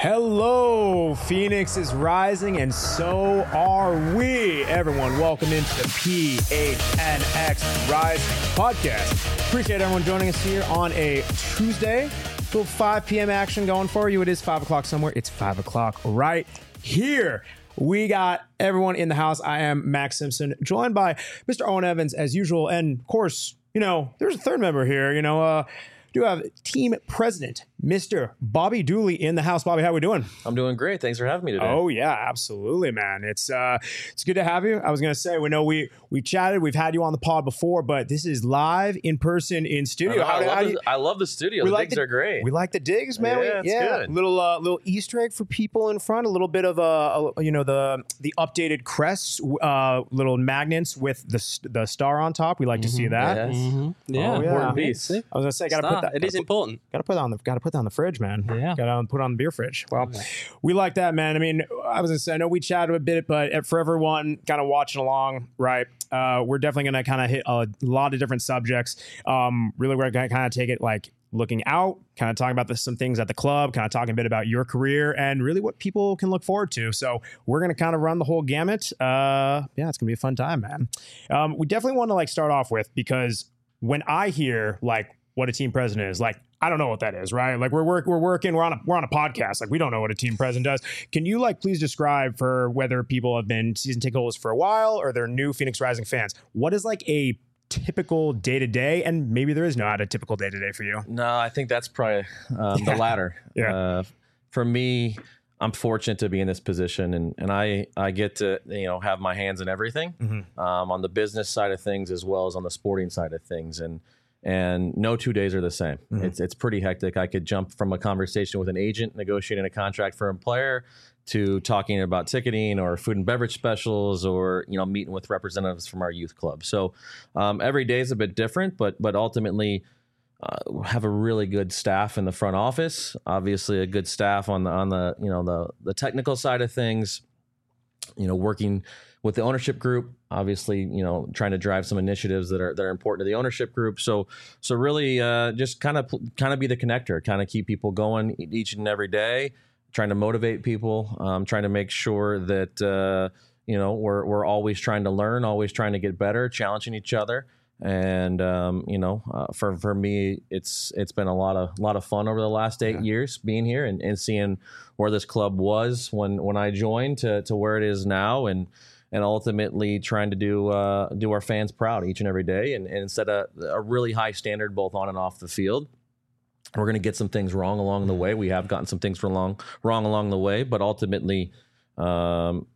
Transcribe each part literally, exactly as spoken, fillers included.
Hello, Phoenix is rising, and so are we. Everyone, welcome into the P H N X Rise podcast. Appreciate everyone joining us here on a Tuesday. Little five p.m. action going for you. It is five o'clock somewhere. It's five o'clock right here. We got everyone in the house. I am Max Simpson, joined by Mister Owen Evans as usual, and of course, you know, there's a third member here. You know, uh, do have team president, Mister Bobby Dooley, in the house. Bobby, how we doing? I'm doing great. Thanks for having me today. Oh yeah, absolutely, man. It's uh, it's good to have you. I was gonna say, we know we we chatted, we've had you on the pod before, but this is live in person in studio. I, how, I, love, how the, you, I love the studio. The like digs the, are great. We like the digs, man. Yeah, we, it's yeah. good. Little uh, little Easter egg for people in front. A little bit of a, a you know the the updated crests, uh, little magnets with the the star on top. We like to see that. Yes. Mm-hmm. Yeah, Oh, yeah. Important piece. I was gonna say, gotta Star. put that. It is gotta put- important. Got to put that on the got to put that on the fridge, man. Yeah. Got to put it on the beer fridge. Well, we like that, man. I mean, I was gonna say, I know we chatted a bit, but for everyone kind of watching along, right? Uh, we're definitely gonna kind of hit a lot of different subjects. Um, really, we're gonna kind of take it like looking out, kind of talking about the, some things at the club, kind of talking a bit about your career and really what people can look forward to. So we're gonna kind of run the whole gamut. Uh, yeah, it's gonna be a fun time, man. Um, we definitely want to like start off with, because when I hear like what a team president is, like, I don't know what that is, right? Like we're work, we're working, we're on a we're on a podcast. Like we don't know what a team president does. Can you like please describe, for whether people have been season ticket holders for a while or they're new Phoenix Rising fans, what is like a typical day to day, and maybe there is not a typical day to day for you? No, I think that's probably um, Yeah. the latter. Yeah. Uh, for me, I'm fortunate to be in this position, and, and I, I get to, you know, have my hands in everything, Mhm. um, on the business side of things as well as on the sporting side of things. And and no two days are the same. Mhm. It's it's pretty hectic. I could jump from a conversation with an agent negotiating a contract for a player to talking about ticketing or food and beverage specials, or you know, meeting with representatives from our youth club. So um, every day is a bit different, but but ultimately uh, have a really good staff in the front office. Obviously, a good staff on the on the you know the the technical side of things. You know, working with the ownership group, obviously, you know, trying to drive some initiatives that are that are important to the ownership group. So, so really, uh, just kind of kind of be the connector, kind of keep people going each and every day, trying to motivate people, um, trying to make sure that uh, you know we're we're always trying to learn, always trying to get better, challenging each other. And um, you know, uh, for for me, it's it's been a lot of lot of fun over the last eight Yeah. years being here and, and seeing where this club was when when I joined to to where it is now, and and ultimately trying to do uh, do our fans proud each and every day, and, and set a, a really high standard both on and off the field. We're going to get some things wrong along the way. We have gotten some things wrong wrong along the way, but ultimately. Um,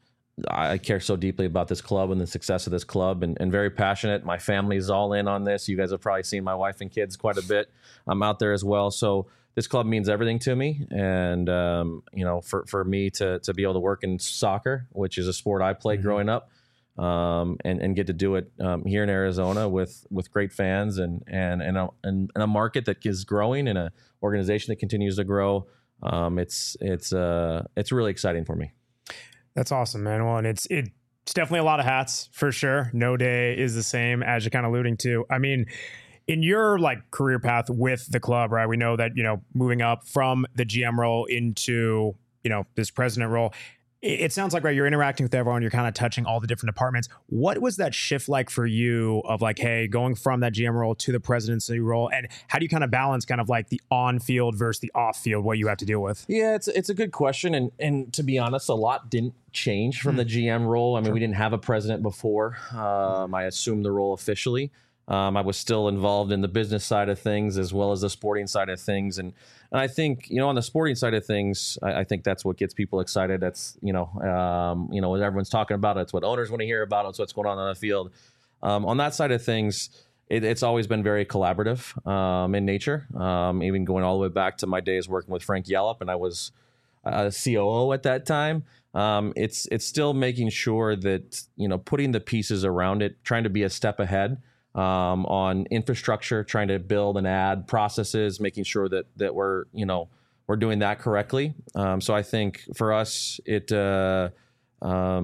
I care so deeply about this club and the success of this club, and, and very passionate. My family's all in on this. You guys have probably seen my wife and kids quite a bit. I'm out there as well. So this club means everything to me. And, um, you know, for, for me to, to be able to work in soccer, which is a sport I played Mhm. growing up, um, and, and get to do it um, here in Arizona with, with great fans and, and, and, a, and, and a market that is growing and an organization that continues to grow. Um, it's, it's, uh, it's really exciting for me. That's awesome, man. Well, and it's it's definitely a lot of hats for sure. No day is the same, as you're kind of alluding to. I mean, in your like career path with the club, right? We know that, you know, moving up from the G M role into, you know, this president role, it, it sounds like, right, you're interacting with everyone, you're kind of touching all the different departments. What was that shift like for you of like, hey, going from that G M role to the presidency role, and how do you kind of balance kind of like the on field versus the off field, what you have to deal with? Yeah, it's it's a good question, and and to be honest, a lot didn't change from Hmm. the G M role. I mean, Sure. we didn't have a president before. Um, I assumed the role officially. Um, I was still involved in the business side of things as well as the sporting side of things, and and I think, you know, on the sporting side of things, I, I think that's what gets people excited. That's, you know, um, you know, what everyone's talking about. It's what owners want to hear about. It's what's going on on the field. Um, on that side of things, it, it's always been very collaborative um, in nature. Um, even going all the way back to my days working with Frank Yallop, and I was a C O O at that time. Um, it's it's still making sure that, you know, putting the pieces around it, trying to be a step ahead um, on infrastructure, trying to build and add processes, making sure that that we're, you know, we're doing that correctly. Um, so I think for us, it uh, um,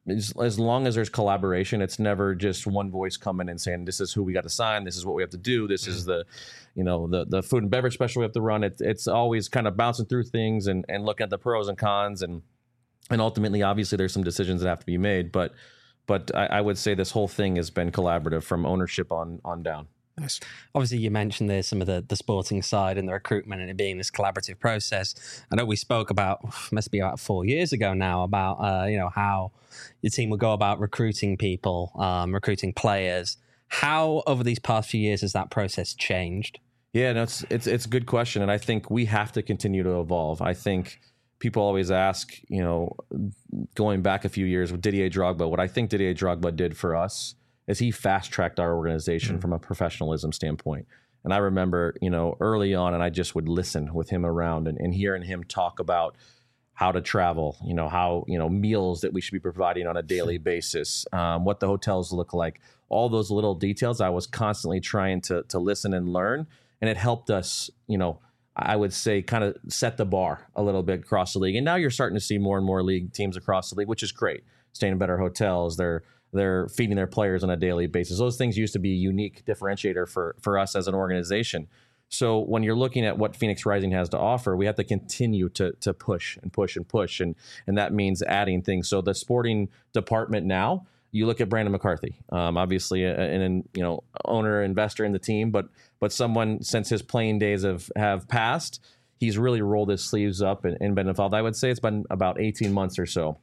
as, as long as there's collaboration, it's never just one voice coming and saying, this is who we got to sign. This is what we have to do. This is the, you know, the, the food and beverage special we have to run. It, it's always kind of bouncing through things and, and looking at the pros and cons. And, and ultimately, obviously, there's some decisions that have to be made. But, but I, I would say this whole thing has been collaborative from ownership on, on down. Nice. Obviously, you mentioned there's some of the, the sporting side and the recruitment and it being this collaborative process. I know we spoke about, must be about four years ago now, about, uh, you know, how your team would go about recruiting people, um, recruiting players. How, over these past few years, has that process changed? Yeah, no, it's, it's, it's a good question. And I think we have to continue to evolve. I think people always ask, you know, going back a few years with Didier Drogba, what I think Didier Drogba did for us is he fast-tracked our organization mm-hmm. from a professionalism standpoint. And I remember, you know, early on, and I just would listen with him around and, and hearing him talk about how to travel, you know, how, you know, meals that we should be providing on a daily basis, um, what the hotels look like, all those little details. I was constantly trying to to listen and learn, and it helped us, you know, I would say kind of set the bar a little bit across the league. And now you're starting to see more and more league teams across the league, which is great. Staying in better hotels, they're They're feeding their players on a daily basis. Those things used to be a unique differentiator for, for us as an organization. So when you're looking at what Phoenix Rising has to offer, we have to continue to to push and push and push. And, and that means adding things. So the sporting department now, you look at Brandon McCarthy, um, obviously an you know owner, investor in the team, but but someone since his playing days have, have passed, he's really rolled his sleeves up and, and been involved. I would say it's been about eighteen months or so.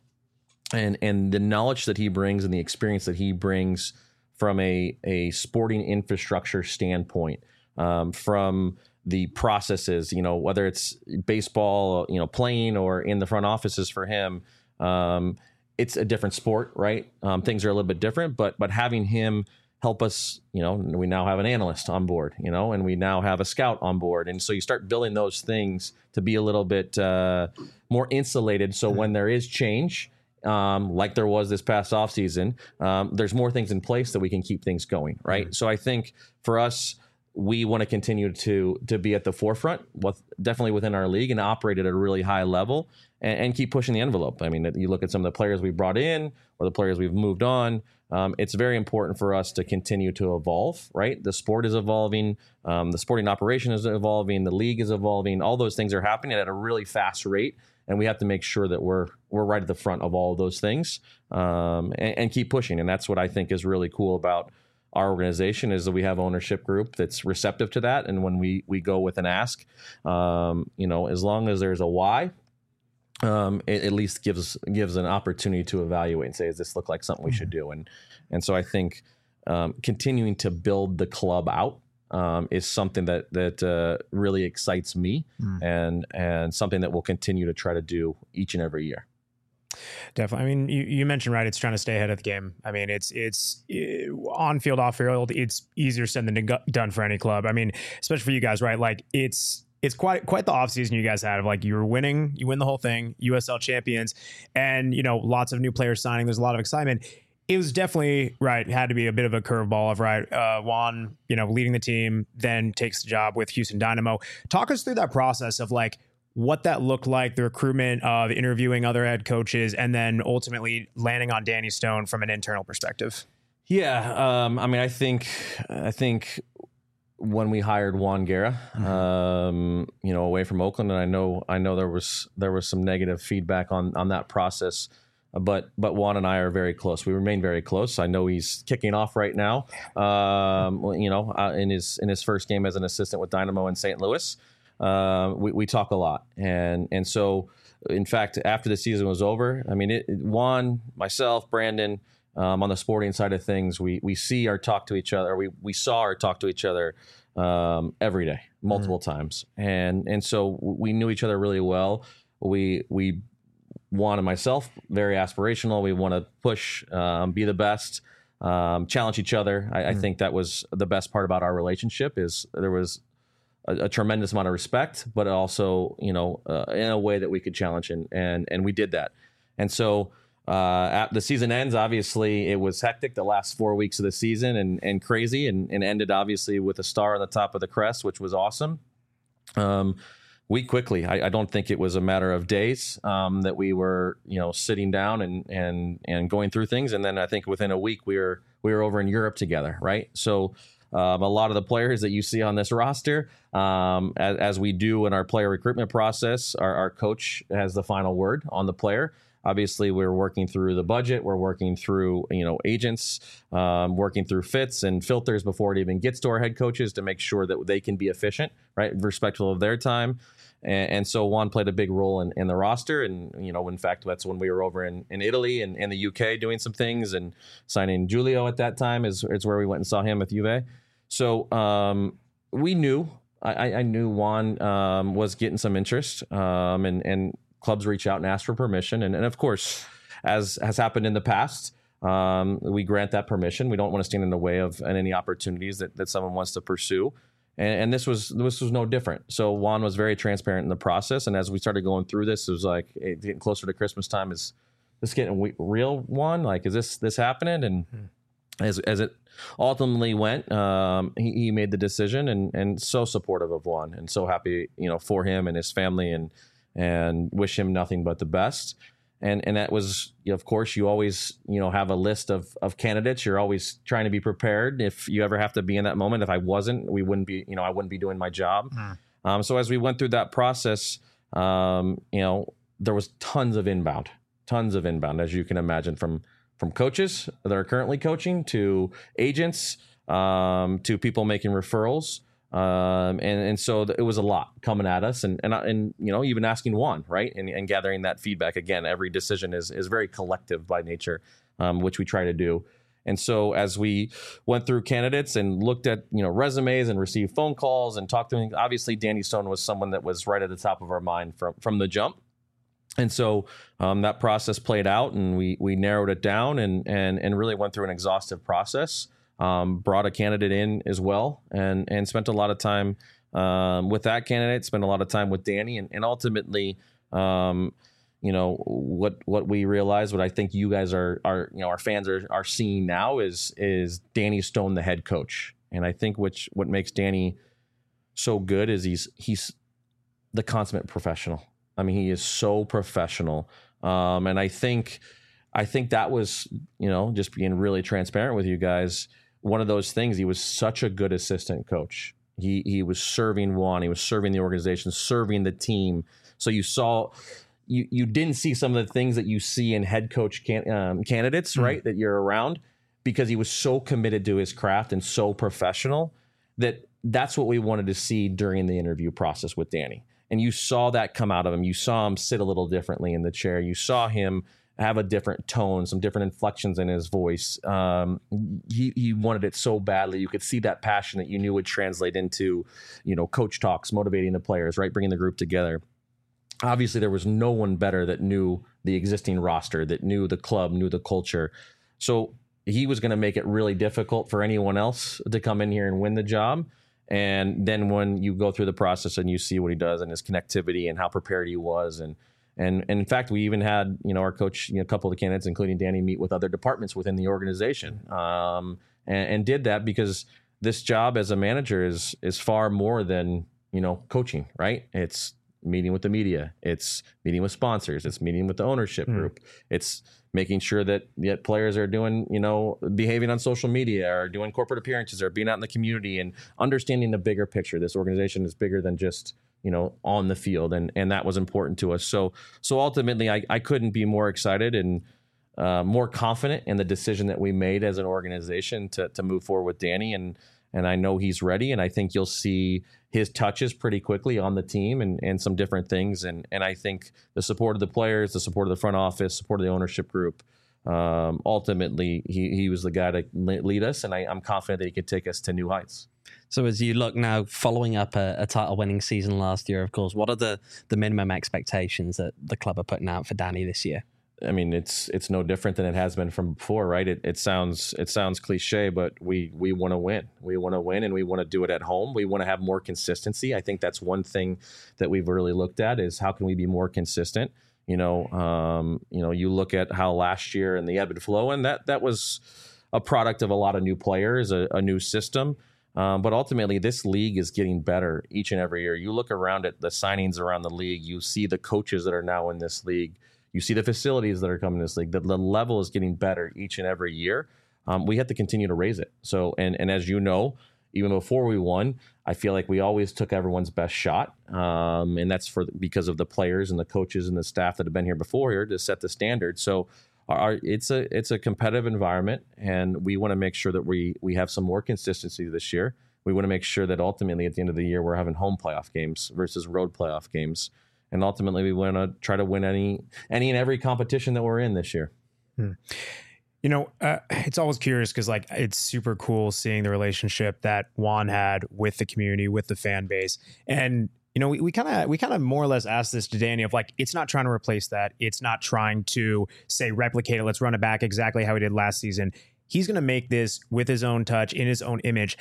And and the knowledge that he brings and the experience that he brings from a, a sporting infrastructure standpoint, um, from the processes, you know, whether it's baseball, you know, playing or in the front offices for him, um, it's a different sport, right? Um, things are a little bit different, but but having him help us, you know, we now have an analyst on board, you know, and we now have a scout on board. And so you start building those things to be a little bit uh, more insulated. So when there is change, Um, like there was this past offseason, um, there's more things in place that we can keep things going, right? Mm-hmm. So I think for us, we want to continue to to be at the forefront, with, definitely within our league, and operate at a really high level and, and keep pushing the envelope. I mean, you look at some of the players we brought in or the players we've moved on. Um, it's very important for us to continue to evolve, right? The sport is evolving. Um, the sporting operation is evolving. The league is evolving. All those things are happening at a really fast rate. And we have to make sure that we're we're right at the front of all of those things, um, and, and keep pushing. And that's what I think is really cool about our organization, is that we have ownership group that's receptive to that. And when we we go with an ask, um, you know, as long as there's a why, um, it at least gives gives an opportunity to evaluate and say, does this look like something we should do? And and so I think um, continuing to build the club out Um, is something that that uh, really excites me, mm. and and something that we'll continue to try to do each and every year. Definitely. I mean, you, you mentioned, right, it's trying to stay ahead of the game. I mean, it's it's it, on field, off field, it's easier said than done for any club. I mean, especially for you guys, right? Like it's it's quite quite the offseason you guys had of like you were winning, you win the whole thing, U S L champions, and you know, lots of new players signing. There's a lot of excitement. It was definitely, right, had to be a bit of a curveball of, right, uh, Juan, you know, leading the team, then takes the job with Houston Dynamo. Talk us through that process of, like, what that looked like, the recruitment of interviewing other head coaches, and then ultimately landing on Danny Stone from an internal perspective. Yeah, um, I mean, I think I think when we hired Juan Guerra, mm-hmm. um, you know, away from Oakland, and I know I know there was there was some negative feedback on on that process. But but Juan and I are very close. We remain very close. I know he's kicking off right now, um, you know, uh, in his in his first game as an assistant with Dynamo in Saint Louis. Uh, we, we talk a lot. And and so, in fact, after the season was over, I mean, it, it, Juan, myself, Brandon, um, on the sporting side of things, we we see or talk to each other. We we saw or talk to each other um, every day, multiple mm-hmm. times. And and so we knew each other really well. We we Juan and myself, very aspirational. We want to push, um, be the best, um, challenge each other. I, mm. I think that was the best part about our relationship, is there was a, a tremendous amount of respect, but also, you know, uh, in a way that we could challenge, and and and we did that. And so uh, at the season ends, obviously it was hectic the last four weeks of the season, and and crazy, and, and ended obviously with a star on the top of the crest, which was awesome. Um, we quickly, I, I don't think it was a matter of days um, that we were, you know, sitting down and and and going through things. And then I think within a week we were we were over in Europe together, right? So um, a lot of the players that you see on this roster, um, as, as we do in our player recruitment process, our, our coach has the final word on the player. Obviously, we're working through the budget. We're working through, you know, agents, um, working through fits and filters before it even gets to our head coaches to make sure that they can be efficient, right, respectful of their time. And, and so Juan played a big role in, in the roster. And, you know, in fact, that's when we were over in, in Italy and in the U K doing some things and signing Julio at that time is, is where we went and saw him with Juve. So um, we knew, I, I knew Juan um, was getting some interest um, and, and clubs reach out and ask for permission. And, and of course, as has happened in the past, um, we grant that permission. We don't want to stand in the way of any opportunities that, that someone wants to pursue. And, and this was this was no different. So Juan was very transparent in the process. And as we started going through this, it was like hey, getting closer to Christmas time. Is this getting real, Juan? Like, is this this happening? And hmm. as as it ultimately went, um, he, he made the decision and and so supportive of Juan and so happy, you know, for him and his family and and wish him nothing but the best. And and that was, you know, of course, you always, you know, have a list of of candidates. You're always trying to be prepared if you ever have to be in that moment. If I wasn't, we wouldn't be, you know, I wouldn't be doing my job. Mm. Um, so as we went through that process, um, you know, there was tons of inbound, tons of inbound, as you can imagine, from from coaches that are currently coaching to agents, um, to people making referrals. Um, and, and so it was a lot coming at us and, and, and, you know, even asking Juan, right. And, and gathering that feedback. Again, every decision is, is very collective by nature, um, which we try to do. And so as we went through candidates and looked at, you know, resumes and received phone calls and talked to them, obviously Danny Stone was someone that was right at the top of our mind from, from the jump. And so um, that process played out and we, we narrowed it down and, and, and really went through an exhaustive process. Um, brought a candidate in as well and and spent a lot of time um, with that candidate, spent a lot of time with Danny. And, and ultimately, um, you know, what what we realized, what I think you guys are, are you know, our fans are are seeing now is is Danny Stone, the head coach. And I think which what makes Danny so good is he's he's the consummate professional. I mean, he is so professional. Um, and I think I think that was, you know, just being really transparent with you guys, one of those things. He was such a good assistant coach. He he was serving Juan. He was serving the organization, serving the team. So you saw, you you didn't see some of the things that you see in head coach can, um, candidates, mm-hmm. right, that you're around, because he was so committed to his craft and so professional that that's what we wanted to see during the interview process with Danny. And you saw that come out of him. You saw him sit a little differently in the chair. You saw him have a different tone, some different inflections in his voice. Um, he he wanted it so badly. You could see that passion that you knew would translate into, you know, coach talks, motivating the players, right, bringing the group together. Obviously, there was no one better that knew the existing roster, that knew the club, knew the culture. So he was going to make it really difficult for anyone else to come in here and win the job. And then when you go through the process and you see what he does and his connectivity and how prepared he was, and And, and in fact, we even had, you know, our coach, you know, a couple of the candidates, including Danny, meet with other departments within the organization, um, and, and did that because this job as a manager is is far more than, you know, coaching, right? It's meeting with the media, it's meeting with sponsors, it's meeting with the ownership mm. group, it's making sure that yet players are doing, you know, behaving on social media or doing corporate appearances or being out in the community and understanding the bigger picture. This organization is bigger than just, you know, on the field. And, and that was important to us. So, so ultimately I, I couldn't be more excited and uh, more confident in the decision that we made as an organization to, to move forward with Danny. And, and I know he's ready. And I think you'll see his touches pretty quickly on the team and, and some different things. And, and I think the support of the players, the support of the front office, support of the ownership group, um, ultimately he, he was the guy to lead us. And I, I'm confident that he could take us to new heights. So as you look now, following up a, a title-winning season last year, of course, what are the, the minimum expectations that the club are putting out for Danny this year? I mean, it's it's no different than it has been from before, right? It it sounds it sounds cliche, but we we want to win. We want to win, and we want to do it at home. We want to have more consistency. I think that's one thing that we've really looked at is how can we be more consistent. You know, um, you know, you look at how last year and the ebb and flow, and that that was a product of a lot of new players, a, a new system. Um, but ultimately, this league is getting better each and every year. You look around at the signings around the league, you see the coaches that are now in this league, you see the facilities that are coming in this league. The, the level is getting better each and every year. Um, we have to continue to raise it. So, and and as you know, even before we won, I feel like we always took everyone's best shot, um, and that's for because of the players and the coaches and the staff that have been here before here to set the standard. So, our, it's a it's a competitive environment, and we want to make sure that we we have some more consistency this year. We want to make sure that ultimately at the end of the year we're having home playoff games versus road playoff games, and ultimately we want to try to win any any and every competition that we're in this year. Hmm. You know, uh, it's always curious because, like, it's super cool seeing the relationship that Juan had with the community, with the fan base. And, you know, we kind of we kind of more or less asked this to Danny of, like, it's not trying to replace that. It's not trying to, say, replicate it. Let's run it back exactly how he did last season. He's going to make this with his own touch, in his own image.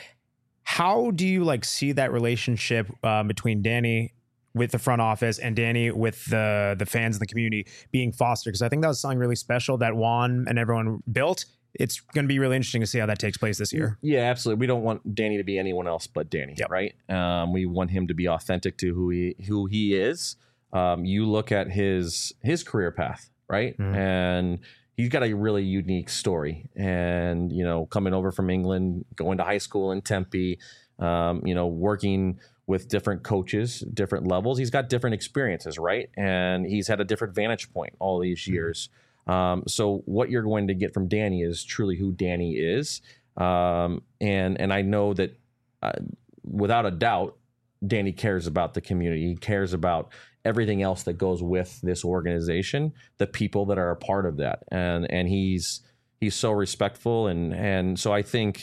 How do you, like, see that relationship uh, between Danny with the front office and Danny with the the fans and the community being fostered? Because I think that was something really special that Juan and everyone built. It's going to be really interesting to see how that takes place this year. Yeah, absolutely. We don't want Danny to be anyone else but Danny, yep. right? Um, we want him to be authentic to who he who he is. Um, you look at his his career path, right? Mm-hmm. And he's got a really unique story. And, you know, coming over from England, going to high school in Tempe, um, you know, working with different coaches, different levels. He's got different experiences, right? And he's had a different vantage point all these years. Um, so what you're going to get from Danny is truly who Danny is. Um, and and I know that uh, without a doubt, Danny cares about the community. He cares about everything else that goes with this organization, the people that are a part of that. And and he's he's so respectful. And and so I think,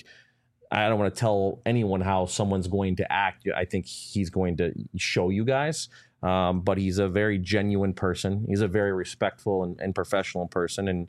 I don't want to tell anyone how someone's going to act. I think he's going to show you guys. Um, but he's a very genuine person. He's a very respectful and, and professional person. And,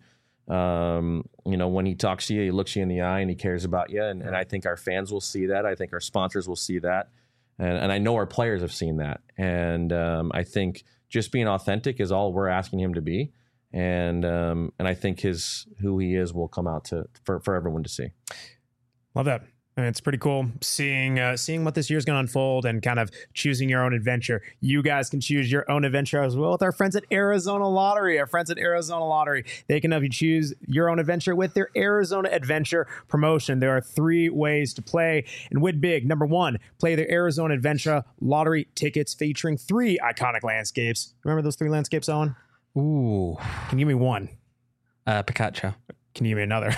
um, you know, when he talks to you, he looks you in the eye and he cares about you. And, and I think our fans will see that. I think our sponsors will see that. And, and I know our players have seen that. And um, I think just being authentic is all we're asking him to be. And um, and I think his who he is will come out to for, for everyone to see. Love that. And it's pretty cool seeing uh, seeing what this year's going to unfold and kind of choosing your own adventure. You guys can choose your own adventure as well with our friends at Arizona Lottery. Our friends at Arizona Lottery, they can help you choose your own adventure with their Arizona Adventure promotion. There are three ways to play and win big. Number one, play their Arizona Adventure Lottery tickets featuring three iconic landscapes. Remember those three landscapes, Owen? Ooh. Can you give me one? Uh, Picacho. Can you give me another?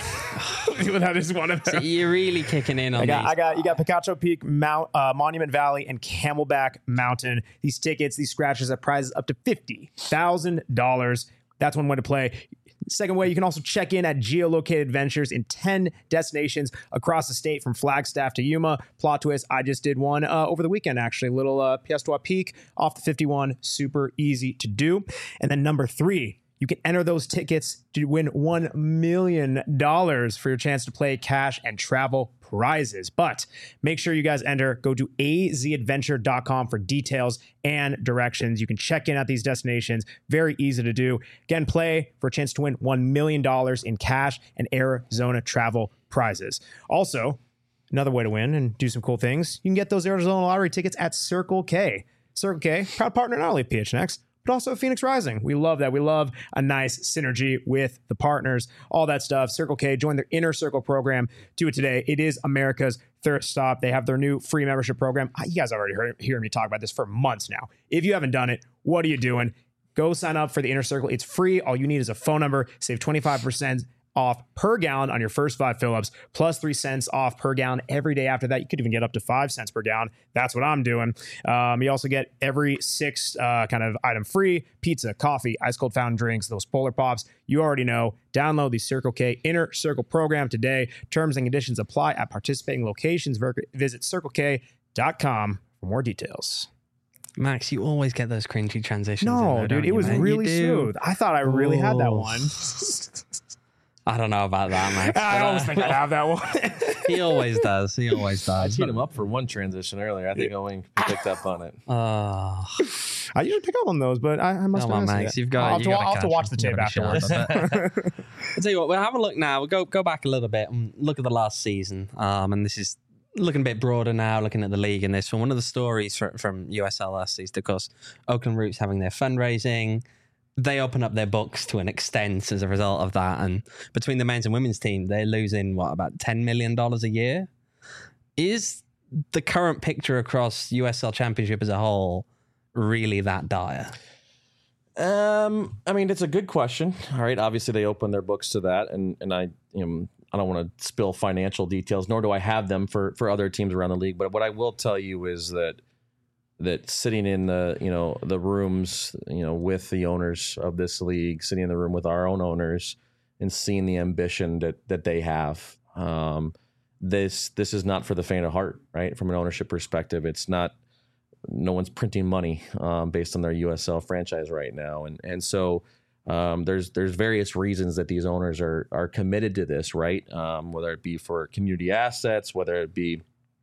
That is one of them. So you're really kicking in on I got, these. I got, you got Picacho Peak, Mount, uh, Monument Valley, and Camelback Mountain. These tickets, these scratches have prizes up to fifty thousand dollars. That's one way to play. Second way, you can also check in at geolocated adventures in ten destinations across the state from Flagstaff to Yuma. Plot twist, I just did one uh, over the weekend, actually. Little uh, Piestewa Peak off the fifty-one. Super easy to do. And then number three, you can enter those tickets to win one million dollars for your chance to play cash and travel prizes. But make sure you guys enter. Go to a z adventure dot com for details and directions. You can check in at these destinations. Very easy to do. Again, play for a chance to win one million dollars in cash and Arizona travel prizes. Also, another way to win and do some cool things, you can get those Arizona Lottery tickets at Circle K. Circle K, proud partner not only of P H N X, but also Phoenix Rising. We love that. We love a nice synergy with the partners, all that stuff. Circle K, join their Inner Circle program. Do it today. It is America's thirst stop. They have their new free membership program. You guys already heard hearing me talk about this for months now. If you haven't done it, what are you doing? Go sign up for the Inner Circle. It's free. All you need is a phone number. Save twenty-five percent off per gallon on your first five fill-ups, plus three cents off per gallon every day after that. You could even get up to five cents per gallon. That's what I'm doing. Um, you also get every six uh, kind of item free: pizza, coffee, ice cold fountain drinks, those Polar Pops. You already know. Download the Circle K Inner Circle program today. Terms and conditions apply at participating locations. Visit circle k dot com for more details. Max, you always get those cringy transitions. No, there, dude, it you, was mate? really smooth. I thought I really Ooh. had that one. I don't know about that, Max. I always think I have that one. He always does. He always I does. teed him up for one transition earlier. I think Owen picked up on it. Oh, I usually pick up on those, but I, I must come on, have Max. You've got. I'll, have you to, got I'll have to watch the tape afterwards. I'll tell you what. We'll have a look now. We'll go go back a little bit and look at the last season. Um, and this is looking a bit broader now, looking at the league and this one, one of the stories from, from U S L S is, of course, Oakland Roots having their fundraising. They open up their books to an extent as a result of that. And between the men's and women's team, they're losing, what, about ten million dollars a year? Is the current picture across U S L Championship as a whole really that dire? Um, I mean, it's a good question. All right. Obviously, they open their books to that. And, and I, you know, I don't want to spill financial details, nor do I have them for, for other teams around the league. But what I will tell you is that that sitting in the, you know, the rooms, you know, with the owners of this league, sitting in the room with our own owners and seeing the ambition that, that they have, um, this, this is not for the faint of heart, right? From an ownership perspective, it's not, no one's printing money, um, based on their U S L franchise right now. And, and so, um, there's, there's various reasons that these owners are, are committed to this, right? Um, whether it be for community assets, whether it be,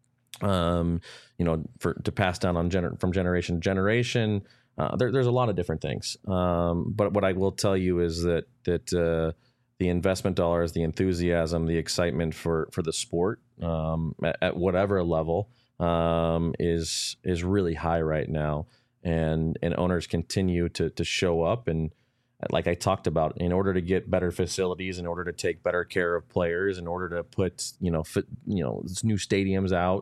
um, you know, for to pass down on gener- from generation to generation. Uh, there, there's a lot of different things. Um, but what I will tell you is that that uh, the investment dollars, the enthusiasm, the excitement for for the sport um, at, at whatever level um, is is really high right now, and and owners continue to to show up. And like I talked about, in order to get better facilities, in order to take better care of players, in order to put you know fit, you know new stadiums out.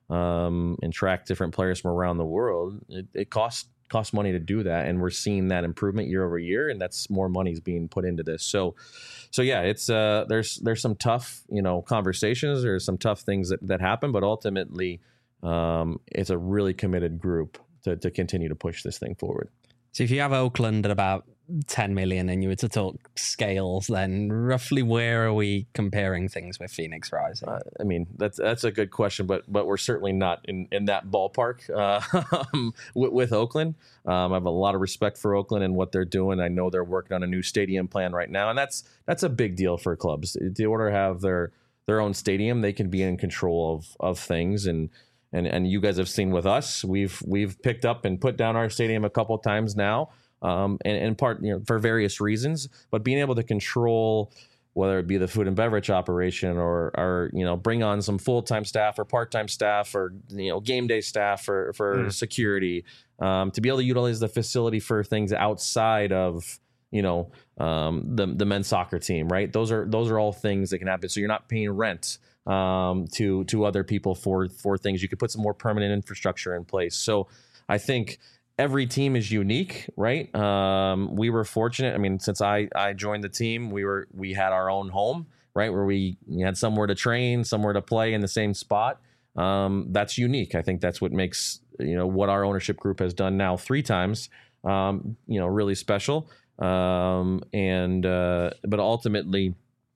Um, and track different players from around the world, it, it costs costs money to do that, and we're seeing that improvement year over year, and that's more money's being put into this. So, so yeah, it's uh, there's there's some tough you know conversations, there's some tough things that, that happen, but ultimately, um, it's a really committed group to to continue to push this thing forward. So if you have Oakland at about ten million and you were to talk scales, then roughly where are we comparing things with Phoenix Rising? Uh, I mean, that's that's a good question, but but we're certainly not in, in that ballpark uh, with, with Oakland. Um, I have a lot of respect for Oakland and what they're doing. I know they're working on a new stadium plan right now, and that's that's a big deal for clubs. In order to have their their own stadium, they can be in control of of things. And and and you guys have seen with us, we've we've picked up and put down our stadium a couple of times now. Um, and in part, you know, for various reasons, but being able to control whether it be the food and beverage operation or, or you know, bring on some full-time staff or part-time staff or, you know, game day staff for, for mm. security, um, to be able to utilize the facility for things outside of, you know, um, the, the men's soccer team, right? Those are, those are all things that can happen. So you're not paying rent, um, to, to other people for, for things. You could put some more permanent infrastructure in place. So I think every team is unique, right? Um, we were fortunate. I mean, since I, I joined the team, we were we had our own home, right, where we had somewhere to train, somewhere to play in the same spot. Um, that's unique. I think that's what makes you know what our ownership group has done now three times, um, you know, really special. Um, and uh, but ultimately,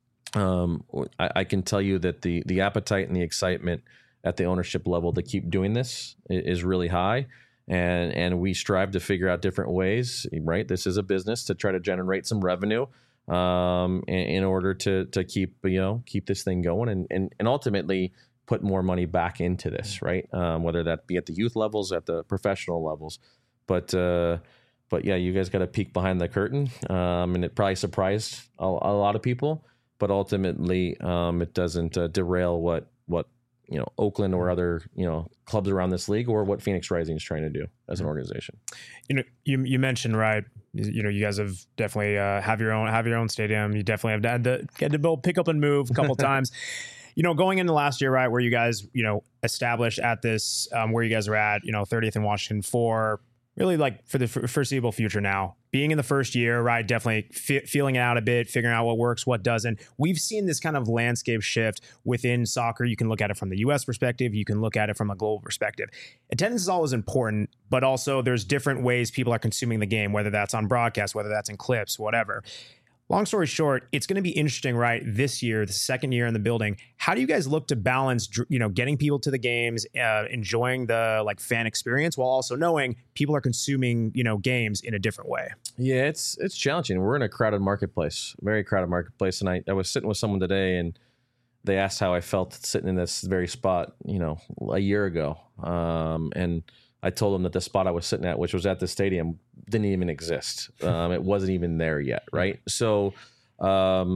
um, I, I can tell you that the the appetite and the excitement at the ownership level to keep doing this is really high. And and we strive to figure out different ways, right? This is a business to try to generate some revenue um, in, in order to to keep you know keep this thing going and and, and ultimately put more money back into this, right? Um, whether that be at the youth levels, at the professional levels, but uh, but yeah, you guys got a peek behind the curtain, um, and it probably surprised a, a lot of people, but ultimately um, it doesn't uh, derail what what. you know, Oakland or other, you know, clubs around this league or what Phoenix Rising is trying to do as an organization. You know, you, you mentioned, right, you know, you guys have definitely uh, have your own, have your own stadium. You definitely have had to get to build, pick up and move a couple times. You know, going into last year, right, where you guys, you know, established at this, um, where you guys are at, you know, thirtieth in Washington for really like for the foreseeable future now. Being in the first year, right, definitely fe- feeling it out a bit, figuring out what works, what doesn't. We've seen this kind of landscape shift within soccer. You can look at it from the U S perspective. You can look at it from a global perspective. Attendance is always important, but also there's different ways people are consuming the game, whether that's on broadcast, whether that's in clips, whatever. Long story short, it's going to be interesting, right? This year, the second year in the building, how do you guys look to balance, you know, getting people to the games, uh, enjoying the like fan experience, while also knowing people are consuming, you know, games in a different way? Yeah, it's it's challenging. We're in a crowded marketplace, very crowded marketplace, and I, I was sitting with someone today, and they asked how I felt sitting in this very spot, you know, a year ago, um, and I told them that the spot I was sitting at, which was at the stadium, didn't even exist. Um, it wasn't even there yet, right? So um,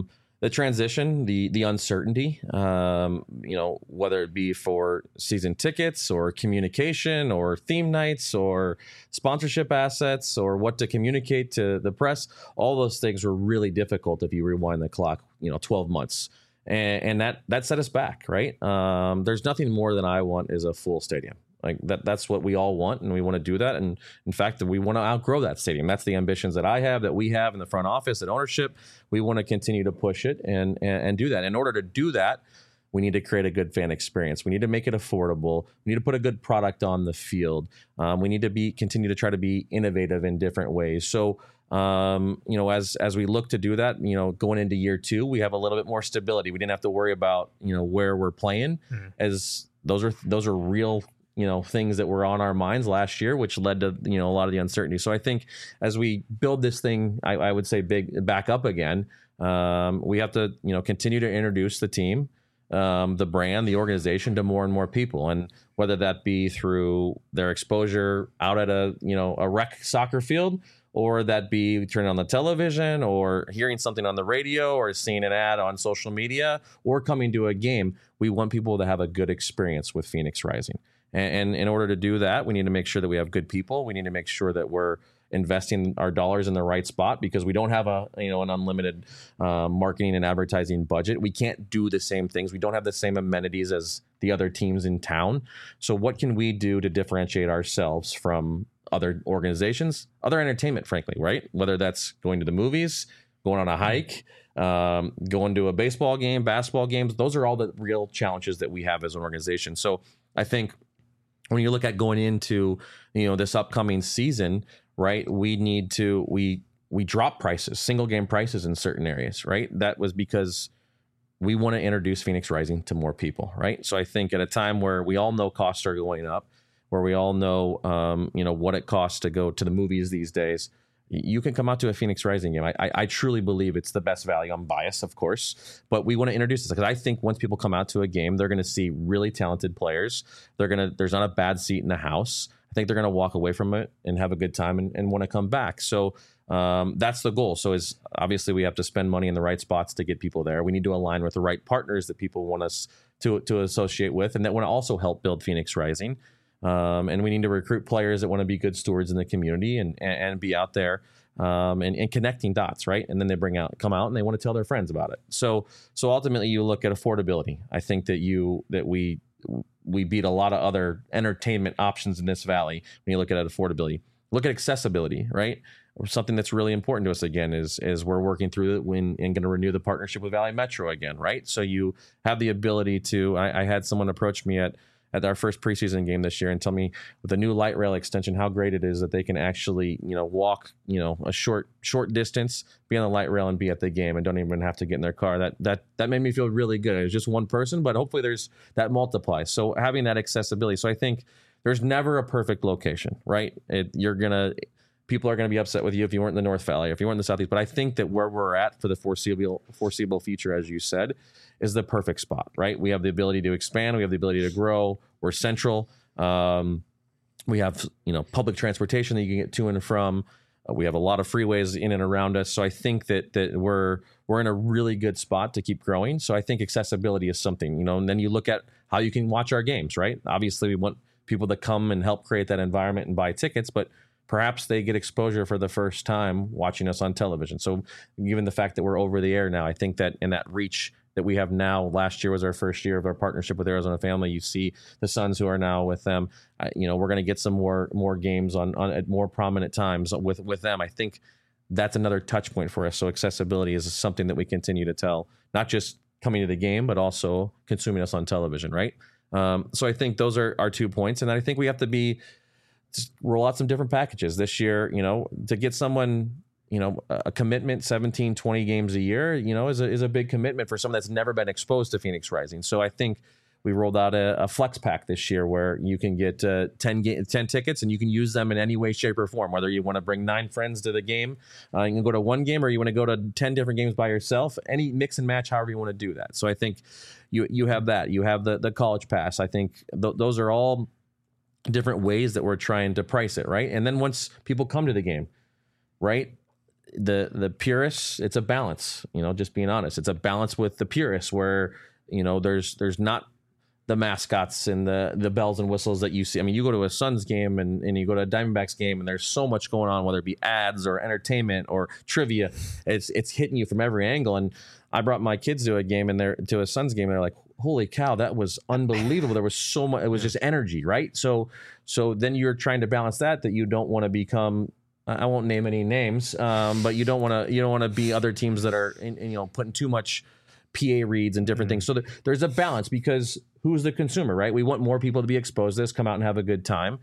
the transition, the the uncertainty, um, you know, whether it be for season tickets or communication or theme nights or sponsorship assets or what to communicate to the press, all those things were really difficult if you rewind the clock, you know, twelve months. And, and that that set us back, right? Um, there's nothing more than I want is a full stadium. Like that, that's what we all want, and we want to do that. And in fact, we want to outgrow that stadium. That's the ambitions that I have, that we have in the front office, at ownership. We want to continue to push it and, and and do that. In order to do that, we need to create a good fan experience. We need to make it affordable. We need to put a good product on the field. Um, we need to be continue to try to be innovative in different ways. So, um, you know, as as we look to do that, you know, going into year two, we have a little bit more stability. We didn't have to worry about, you know, where we're playing, mm-hmm. as those are those are real, you know, things that were on our minds last year, which led to, you know, a lot of the uncertainty. So I think as we build this thing, I, I would say big back up again, um, we have to, you know, continue to introduce the team, um, the brand, the organization to more and more people. And whether that be through their exposure out at a, you know, a rec soccer field, or that be turning on the television or hearing something on the radio or seeing an ad on social media or coming to a game, we want people to have a good experience with Phoenix Rising. And in order to do that, we need to make sure that we have good people. We need to make sure that we're investing our dollars in the right spot, because we don't have a, you know, an unlimited uh, marketing and advertising budget. We can't do the same things. We don't have the same amenities as the other teams in town. So what can we do to differentiate ourselves from other organizations, other entertainment, frankly, right? Whether that's going to the movies, going on a hike, um, going to a baseball game, basketball games. Those are all the real challenges that we have as an organization. So I think when you look at going into, you know, this upcoming season, right, we need to, we, we drop prices, single game prices in certain areas, right? That was because we want to introduce Phoenix Rising to more people, right? So I think at a time where we all know costs are going up, where we all know, um, you know, what it costs to go to the movies these days, you can come out to a Phoenix Rising game. I, I, I truly believe it's the best value. I'm biased, of course, but we want to introduce this because I think once people come out to a game, they're going to see really talented players. They're going to, there's not a bad seat in the house. I think they're going to walk away from it and have a good time and, and want to come back. So um, that's the goal. So is obviously we have to spend money in the right spots to get people there. We need to align with the right partners that people want us to, to associate with, and that want to also help build Phoenix Rising. Um, and we need to recruit players that want to be good stewards in the community and and, and be out there um, and, and connecting dots, right? And then they bring out, come out, and they want to tell their friends about it. So so ultimately, you look at affordability. I think that you that we we beat a lot of other entertainment options in this valley when you look at affordability. Look at accessibility, right? Something that's really important to us again is is we're working through it when and going to renew the partnership with Valley Metro again, right? So you have the ability to. I, I had someone approach me at. at our first preseason game this year and tell me with the new light rail extension how great it is that they can actually, you know, walk, you know, a short short distance, be on the light rail and be at the game and don't even have to get in their car. That that that made me feel really good. It was just one person, but hopefully there's that multiplies. So having that accessibility. So I think there's never a perfect location, right? It, you're gonna people are going to be upset with you if you weren't in the North Valley, if you weren't in the Southeast. But I think that where we're at for the foreseeable foreseeable future, as you said, is the perfect spot, right? We have the ability to expand. We have the ability to grow. We're central. Um, we have, you know, public transportation that you can get to and from. Uh, we have a lot of freeways in and around us. So I think that that we're we're in a really good spot to keep growing. So I think accessibility is something, you know, and then you look at how you can watch our games, right? Obviously, we want people to come and help create that environment and buy tickets, but perhaps they get exposure for the first time watching us on television. So given the fact that we're over the air now, I think that in that reach that we have now, last year was our first year of our partnership with Arizona Family. You see the Suns who are now with them. Uh, you know, we're going to get some more more games on, on at more prominent times with, with them. I think that's another touch point for us. So accessibility is something that we continue to tell, not just coming to the game, but also consuming us on television, right? Um, so I think those are our two points. And I think we have to be, just roll out some different packages this year, you know, to get someone, you know, a commitment, seventeen, twenty games a year, you know, is a, is a big commitment for someone that's never been exposed to Phoenix Rising. So I think we rolled out a, a flex pack this year where you can get uh, ten, ga- ten tickets and you can use them in any way, shape, or form, whether you want to bring nine friends to the game, uh, you can go to one game, or you want to go to ten different games by yourself, any mix and match, however you want to do that. So I think you you have that. You have the, the college pass. I think th- those are all different ways that we're trying to price it, right? And then once people come to the game, right, the the purists, it's a balance, you know, just being honest. It's a balance with the purists where, you know, there's there's not the mascots and the the bells and whistles that you see. I mean, you go to a Suns game and, and you go to a Diamondbacks game and there's so much going on, whether it be ads or entertainment or trivia. It's it's hitting you from every angle. And I brought my kids to a game and they're to a Suns game and they're like, holy cow, that was unbelievable. There was so much, it was just energy, right? So so then you're trying to balance that, that you don't want to become, I won't name any names, um, but you don't want to you don't want to be other teams that are in, in, you know, putting too much P A reads and different mm-hmm. things. So there, there's a balance because who's the consumer, right? We want more people to be exposed to this, come out and have a good time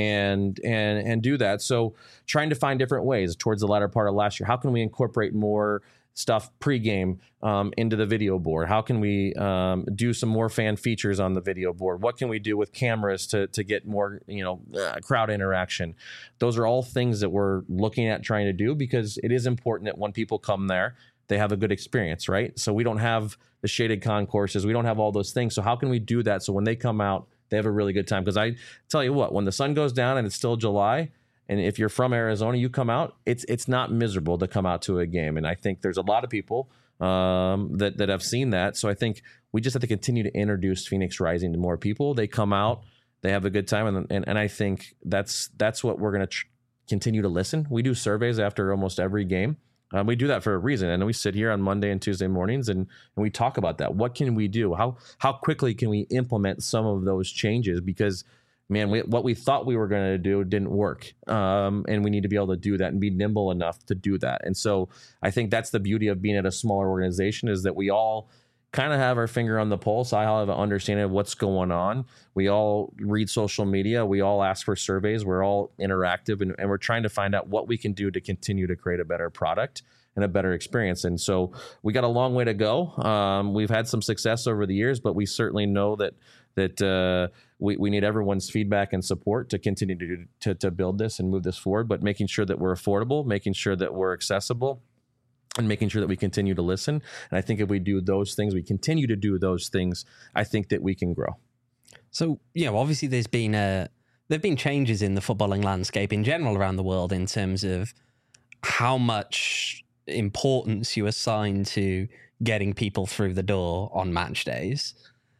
and and and do that. So trying to find different ways towards the latter part of last year. How can we incorporate more stuff pregame um, into the video board? How can we um, do some more fan features on the video board? What can we do with cameras to to get more, you know, uh, crowd interaction? Those are all things that we're looking at trying to do because it is important that when people come there, they have a good experience, right? So we don't have the shaded concourses. We don't have all those things. So how can we do that so when they come out, they have a really good time? Because I tell you what, when the sun goes down and it's still July, and if you're from Arizona, you come out, it's it's not miserable to come out to a game. And I think there's a lot of people um, that, that have seen that. So I think we just have to continue to introduce Phoenix Rising to more people. They come out, they have a good time. And and, and I think that's, that's what we're going to tr- continue to listen. We do surveys after almost every game. Um, we do that for a reason. And we sit here on Monday and Tuesday mornings and, and we talk about that. What can we do? How how quickly can we implement some of those changes? Because, man, we, what we thought we were going to do didn't work. Um, and we need to be able to do that and be nimble enough to do that. And so I think that's the beauty of being at a smaller organization is that we all kind of have our finger on the pulse. I have an understanding of what's going on. We all read social media. We all ask for surveys. We're all interactive, and, and we're trying to find out what we can do to continue to create a better product and a better experience. And so we got a long way to go. Um, we've had some success over the years, but we certainly know that that uh, we, we need everyone's feedback and support to continue to, to to build this and move this forward, but making sure that we're affordable, making sure that we're accessible, and making sure that we continue to listen. And I think if we do those things, we continue to do those things, I think that we can grow. So, you know, obviously there's been a, there've been changes in the footballing landscape in general around the world in terms of how much importance you assign to getting people through the door on match days.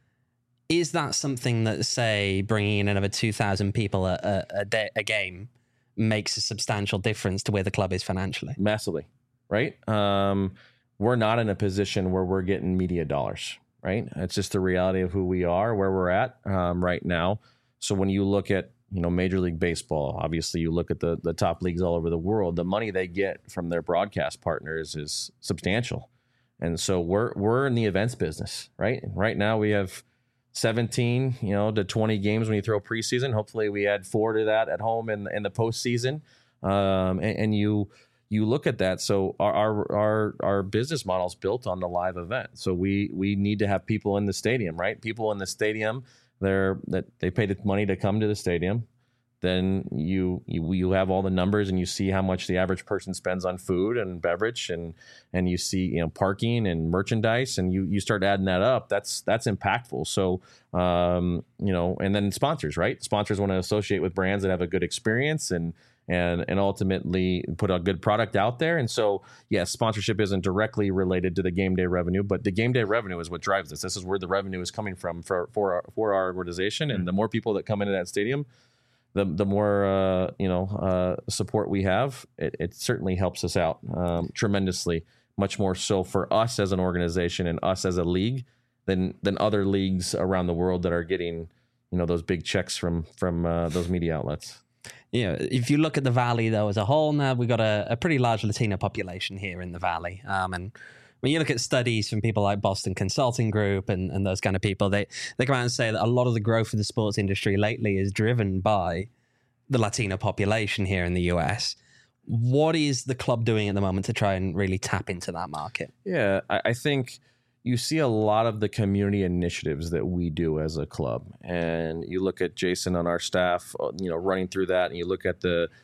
Is that something that, say, bringing in another two thousand people a, a, a, day, a game makes a substantial difference to where the club is financially? Massively. Right? Um, we're not in a position where we're getting media dollars, right? It's just the reality of who we are, where we're at um, right now. So when you look at, you know, Major League Baseball, obviously you look at the the top leagues all over the world, the money they get from their broadcast partners is substantial. And so we're we're in the events business, right? And right now we have seventeen, you know, to twenty games when you throw preseason. Hopefully we add four to that at home in, in the postseason. Um, and, and you you look at that. So our, our our our business model is built on the live event. So we we need to have people in the stadium, right? People in the stadium, they're that they pay the money to come to the stadium. Then you you you have all the numbers and you see how much the average person spends on food and beverage and and you see, you know, parking and merchandise, and you you start adding that up. That's that's impactful. So um, you know, and then sponsors, right? Sponsors want to associate with brands that have a good experience and and and ultimately put a good product out there. And so, yes, sponsorship isn't directly related to the game day revenue, but the game day revenue is what drives this. This is where the revenue is coming from for for our, for our organization. And the more people that come into that stadium, the the more uh, you know uh, support we have. It, it certainly helps us out um, tremendously, much more so for us as an organization and us as a league than than other leagues around the world that are getting, you know, those big checks from from uh, those media outlets. Yeah, if you look at the Valley, though, as a whole, now we've got a, a pretty large Latino population here in the Valley. Um, and when you look at studies from people like Boston Consulting Group and, and those kind of people, they, they come out and say that a lot of the growth of the sports industry lately is driven by the Latino population here in the U S. What is the club doing at the moment to try and really tap into that market? Yeah, I, I think you see a lot of the community initiatives that we do as a club, and you look at Jason on our staff, you know, running through that, and you look at the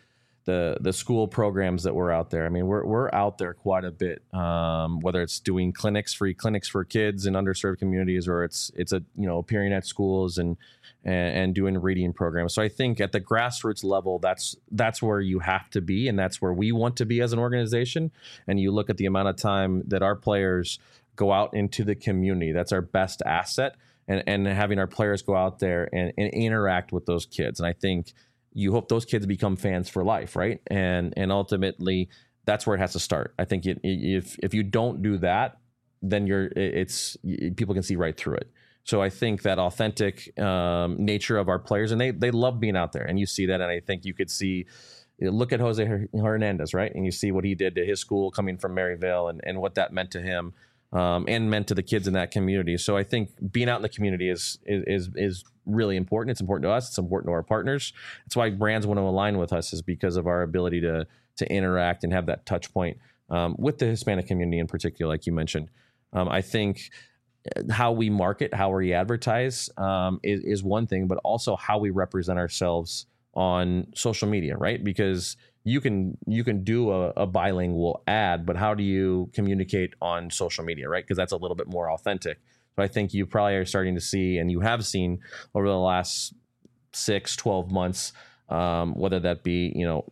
the the school programs that we're out there. I mean, we're we're out there quite a bit. Um, whether it's doing clinics, free clinics for kids in underserved communities, or it's it's a you know appearing at schools and and, and doing reading programs. So I think at the grassroots level, that's that's where you have to be, and that's where we want to be as an organization. And you look at the amount of time that our players go out into the community. That's our best asset, and and having our players go out there and, and interact with those kids. And I think you hope those kids become fans for life, right? And and ultimately, that's where it has to start. I think it, if if you don't do that, then you're it's people can see right through it. So I think that authentic um, nature of our players, and they they love being out there, and you see that. And I think you could see, look at Jose Hernandez, right? And you see what he did to his school coming from Maryvale, and and what that meant to him. Um, and meant to the kids in that community. So I think being out in the community is, is is is really important. It's important to us. It's important to our partners. That's why brands want to align with us, is because of our ability to to interact and have that touch point um, with the Hispanic community in particular, like you mentioned. Um, I think how we market, how we advertise um, is, is one thing, but also how we represent ourselves on social media, right? Because you can you can do a, a bilingual ad, but how do you communicate on social media, right? Because that's a little bit more authentic. So I think you probably are starting to see, and you have seen over the last six, twelve months, um, whether that be, you know,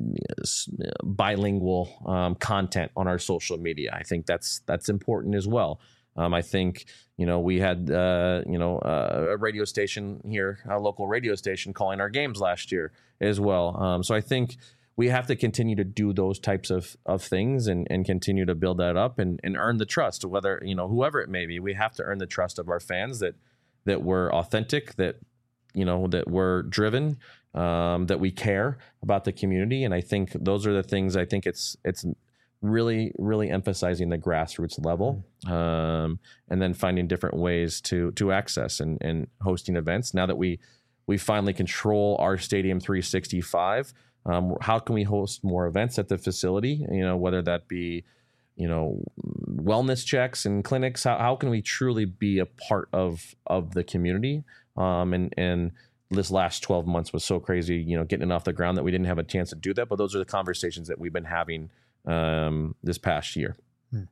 bilingual um, content on our social media. I think that's that's important as well. Um, I think, you know, we had, uh, you know, uh, a radio station here, a local radio station calling our games last year as well. Um, so I think we have to continue to do those types of, of things and, and continue to build that up and, and earn the trust, whether, you know, whoever it may be. We have to earn the trust of our fans that that we're authentic, that, you know, that we're driven, um, that we care about the community. And I think those are the things. I think it's it's really, really emphasizing the grassroots level, um, and then finding different ways to to access and, and hosting events. Now that we we finally control our Stadium three sixty-five, Um, how can we host more events at the facility? You know, whether that be, you know, wellness checks and clinics. How how can we truly be a part of of the community? Um, and and this last twelve months was so crazy, you know, getting it off the ground that we didn't have a chance to do that. But those are the conversations that we've been having um, this past year. Hmm.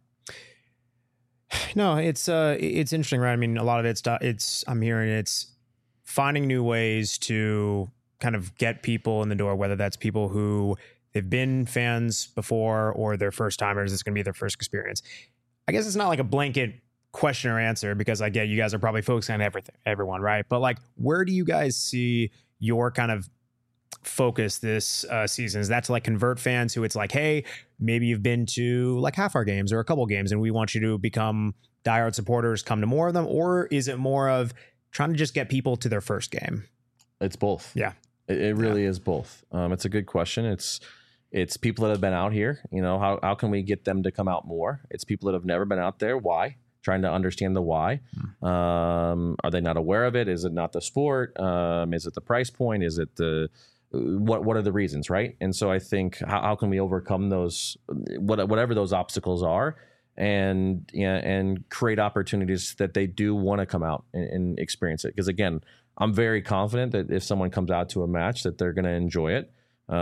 No, it's uh, it's interesting, right? I mean, a lot of it's it's I'm hearing it's finding new ways to kind of get people in the door, whether that's people who they've been fans before or they're first timers. It's going to be their first experience. I guess it's not like a blanket question or answer, because I get you guys are probably focusing on everything, everyone, right? But like, where do you guys see your kind of focus this uh, season? Is that to like convert fans who it's like, hey, maybe you've been to like half our games or a couple games and we want you to become diehard supporters, come to more of them? Or is it more of trying to just get people to their first game? It's both. Yeah. It, it really yeah. is both. Um, it's a good question. It's it's people that have been out here. You know, how how can we get them to come out more? It's people that have never been out there. Why? Trying to understand the why. Mm. Um, are they not aware of it? Is it not the sport? Um, is it the price point? Is it the what? What are the reasons, right? And so I think how, how can we overcome those, what, whatever those obstacles are, and yeah, and create opportunities that they do want to come out and, and experience it. Because again, I'm very confident that if someone comes out to a match, that they're going to enjoy it,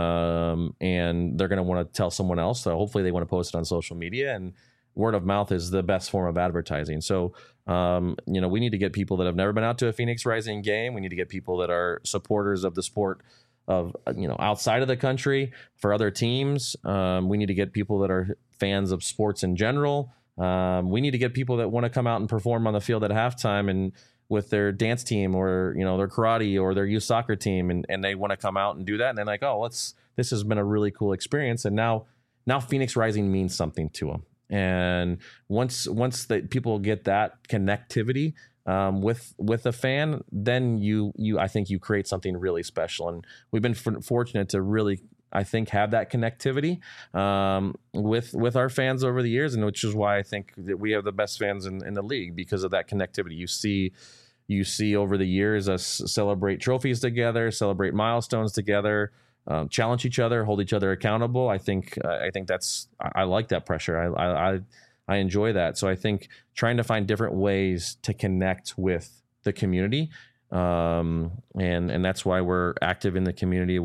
um, and they're going to want to tell someone else. So hopefully they want to post it on social media, and word of mouth is the best form of advertising. So, um, you know, we need to get people that have never been out to a Phoenix Rising game. We need to get people that are supporters of the sport of, you know, outside of the country for other teams. Um, we need to get people that are fans of sports in general. Um, we need to get people that want to come out and perform on the field at halftime and with their dance team or, you know, their karate or their youth soccer team. And, and they want to come out and do that. And they're like, oh, let's, this has been a really cool experience. And now, now Phoenix Rising means something to them. And once, once the people get that connectivity um, with, with a fan, then you, you, I think you create something really special. And we've been f- fortunate to really, I think, have that connectivity um, with with our fans over the years, and which is why I think that we have the best fans in, in the league, because of that connectivity. You see, you see over the years us celebrate trophies together, celebrate milestones together, um, challenge each other, hold each other accountable. I think uh, I think that's I, I like that pressure. I, I I enjoy that. So I think trying to find different ways to connect with the community. Um, and, and that's why we're active in the community with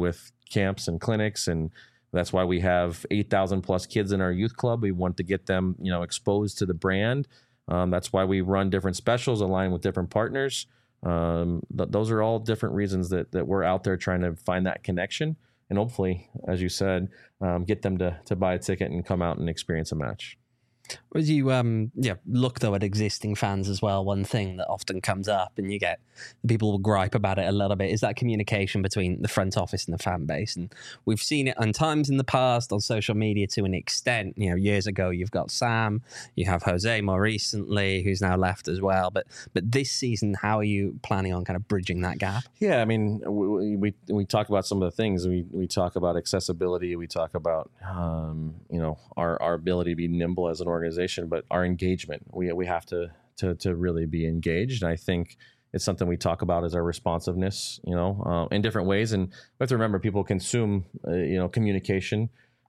camps and clinics, and that's why we have eight thousand plus kids in our youth club. We want to get them, you know, exposed to the brand. Um, that's why we run different specials aligned with different partners. Um, th- those are all different reasons that that we're out there trying to find that connection, and hopefully, as you said, um, get them to to buy a ticket and come out and experience a match. As you um yeah look though at existing fans as well, one thing that often comes up, and you get people will gripe about it a little bit, is that communication between the front office and the fan base. And we've seen it on times in the past on social media to an extent. You know, years ago you've got Sam, you have Jose more recently, who's now left as well. But but this season, how are you planning on kind of bridging that gap? Yeah, I mean, we we, we talk about some of the things. We we talk about accessibility. We talk about um, you know our our ability to be nimble as an organization, but our engagement. We we have to to to really be engaged. And I think it's something we talk about as our responsiveness, you know, uh, in different ways. And we have to remember, people consume, uh, you know, communication.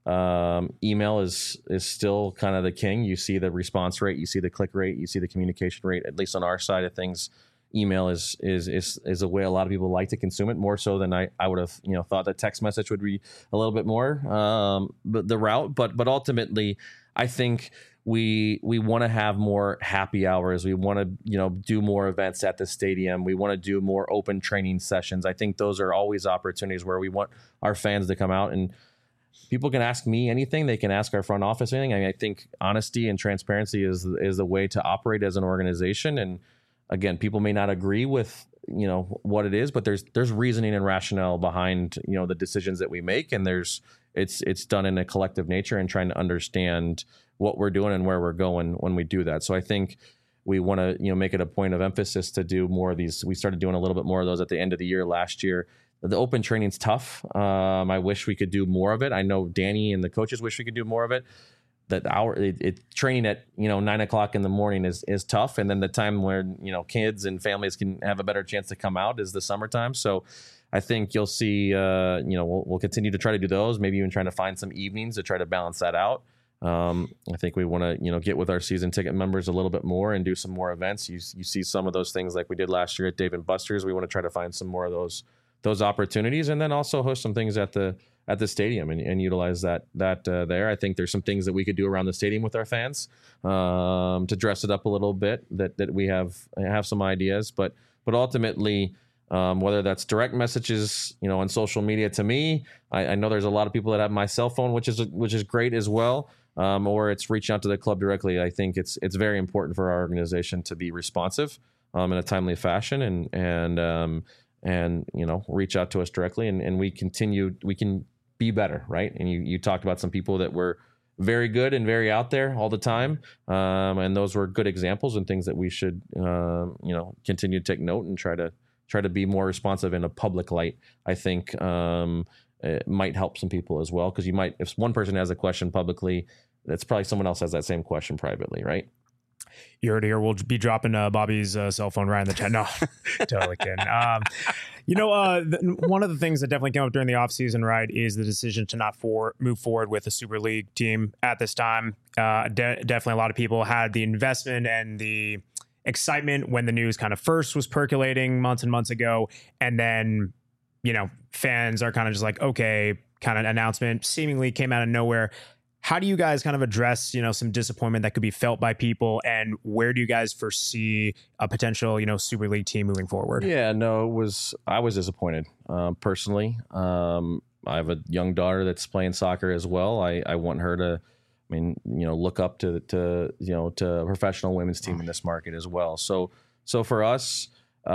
Um, email is is still kind of the king. You see the response rate, you see the click rate, you see the communication rate. At least on our side of things, email is is is is a way a lot of people like to consume it, more so than I, I would have, you know, thought that text message would be a little bit more um, but the route. But but ultimately, I think we we want to have more happy hours. We want to, you know, do more events at the stadium. We want to do more open training sessions. I think those are always opportunities where we want our fans to come out, and people can ask me anything. They can ask our front office anything. I mean, I think honesty and transparency is is the way to operate as an organization. And again, people may not agree with, you know, what it is, but there's there's reasoning and rationale behind, you know, the decisions that we make, and there's it's it's done in a collective nature and trying to understand what we're doing and where we're going when we do that. So I think we want to, you know, make it a point of emphasis to do more of these. We started doing a little bit more of those at the end of the year last year. The open training's tough. Um, I wish we could do more of it. I know Danny and the coaches wish we could do more of it. That hour it, it training at, you know, nine o'clock in the morning is is tough, and then the time where, you know, kids and families can have a better chance to come out is the summertime. So I think you'll see, uh, you know, we'll, we'll continue to try to do those. Maybe even trying to find some evenings to try to balance that out. Um, I think we want to, you know, get with our season ticket members a little bit more and do some more events. You you see some of those things like we did last year at Dave and Buster's. We want to try to find some more of those those opportunities, and then also host some things at the at the stadium and, and utilize that that uh, there. I think there's some things that we could do around the stadium with our fans um, to dress it up a little bit. That that we have have some ideas, but but ultimately. Um, whether that's direct messages, you know, on social media to me, I, I know there's a lot of people that have my cell phone, which is which is great as well. Um, or it's reaching out to the club directly. I think it's it's very important for our organization to be responsive um, in a timely fashion, and and um, and you know, reach out to us directly, and, and we continue we can be better, right? And you you talked about some people that were very good and very out there all the time, um, and those were good examples and things that we should um, you know, continue to take note and try to. try to be more responsive in a public light. I think um, it might help some people as well, because you might, if one person has a question publicly, that's probably someone else has that same question privately, right? You heard it here. We'll be dropping uh, Bobby's uh, cell phone right in the chat. No, totally kidding. Um, you know, uh, the, one of the things that definitely came up during the offseason, right, is the decision to not for, move forward with the Super League team at this time. Uh, de- definitely a lot of people had the investment and the excitement when the news kind of first was percolating months and months ago. And then, you know, fans are kind of just like, okay, kind of announcement seemingly came out of nowhere. How do you guys kind of address, you know, some disappointment that could be felt by people, and where do you guys foresee a potential, you know, Super League team moving forward? Yeah, no, it was, I was disappointed um, personally. Um, I have a young daughter that's playing soccer as well. I, I want her to, I mean, you know, look up to, to, you know, to a professional women's team in this market as well. So, so for us,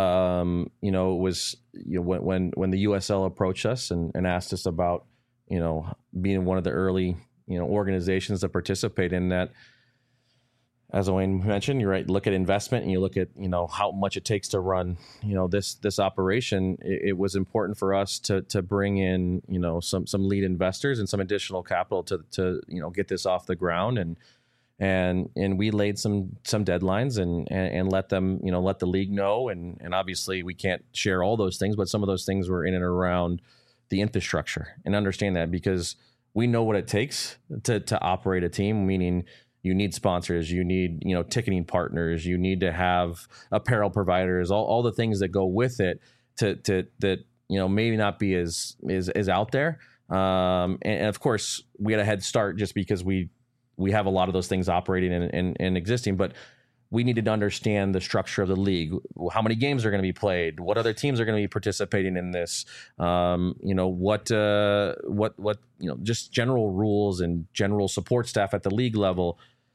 um, you know, it was, you know, when, when, when the U S L approached us and, and asked us about, you know, being one of the early, you know, organizations that participate in that, as Owain mentioned, you're right, look at investment and you look at, you know, how much it takes to run, you know, this, this operation. It, it was important for us to, to bring in, you know, some, some lead investors and some additional capital to, to, you know, get this off the ground. And, and, and we laid some, some deadlines and, and, and let them, you know, let the league know. And, and obviously we can't share all those things, but some of those things were in and around the infrastructure, and understand that, because we know what it takes to, to operate a team, meaning you need sponsors, you need, you know, ticketing partners, you need to have apparel providers, all, all the things that go with it to, to, that, you know, maybe not be as is is out there. Um, and, and of course, we had a head start just because we we have a lot of those things operating and, and, and existing, but we needed to understand the structure of the league, how many games are going to be played, what other teams are going to be participating in this, um, you know, what, uh, what, what, you know, just general rules and general support staff at the league level.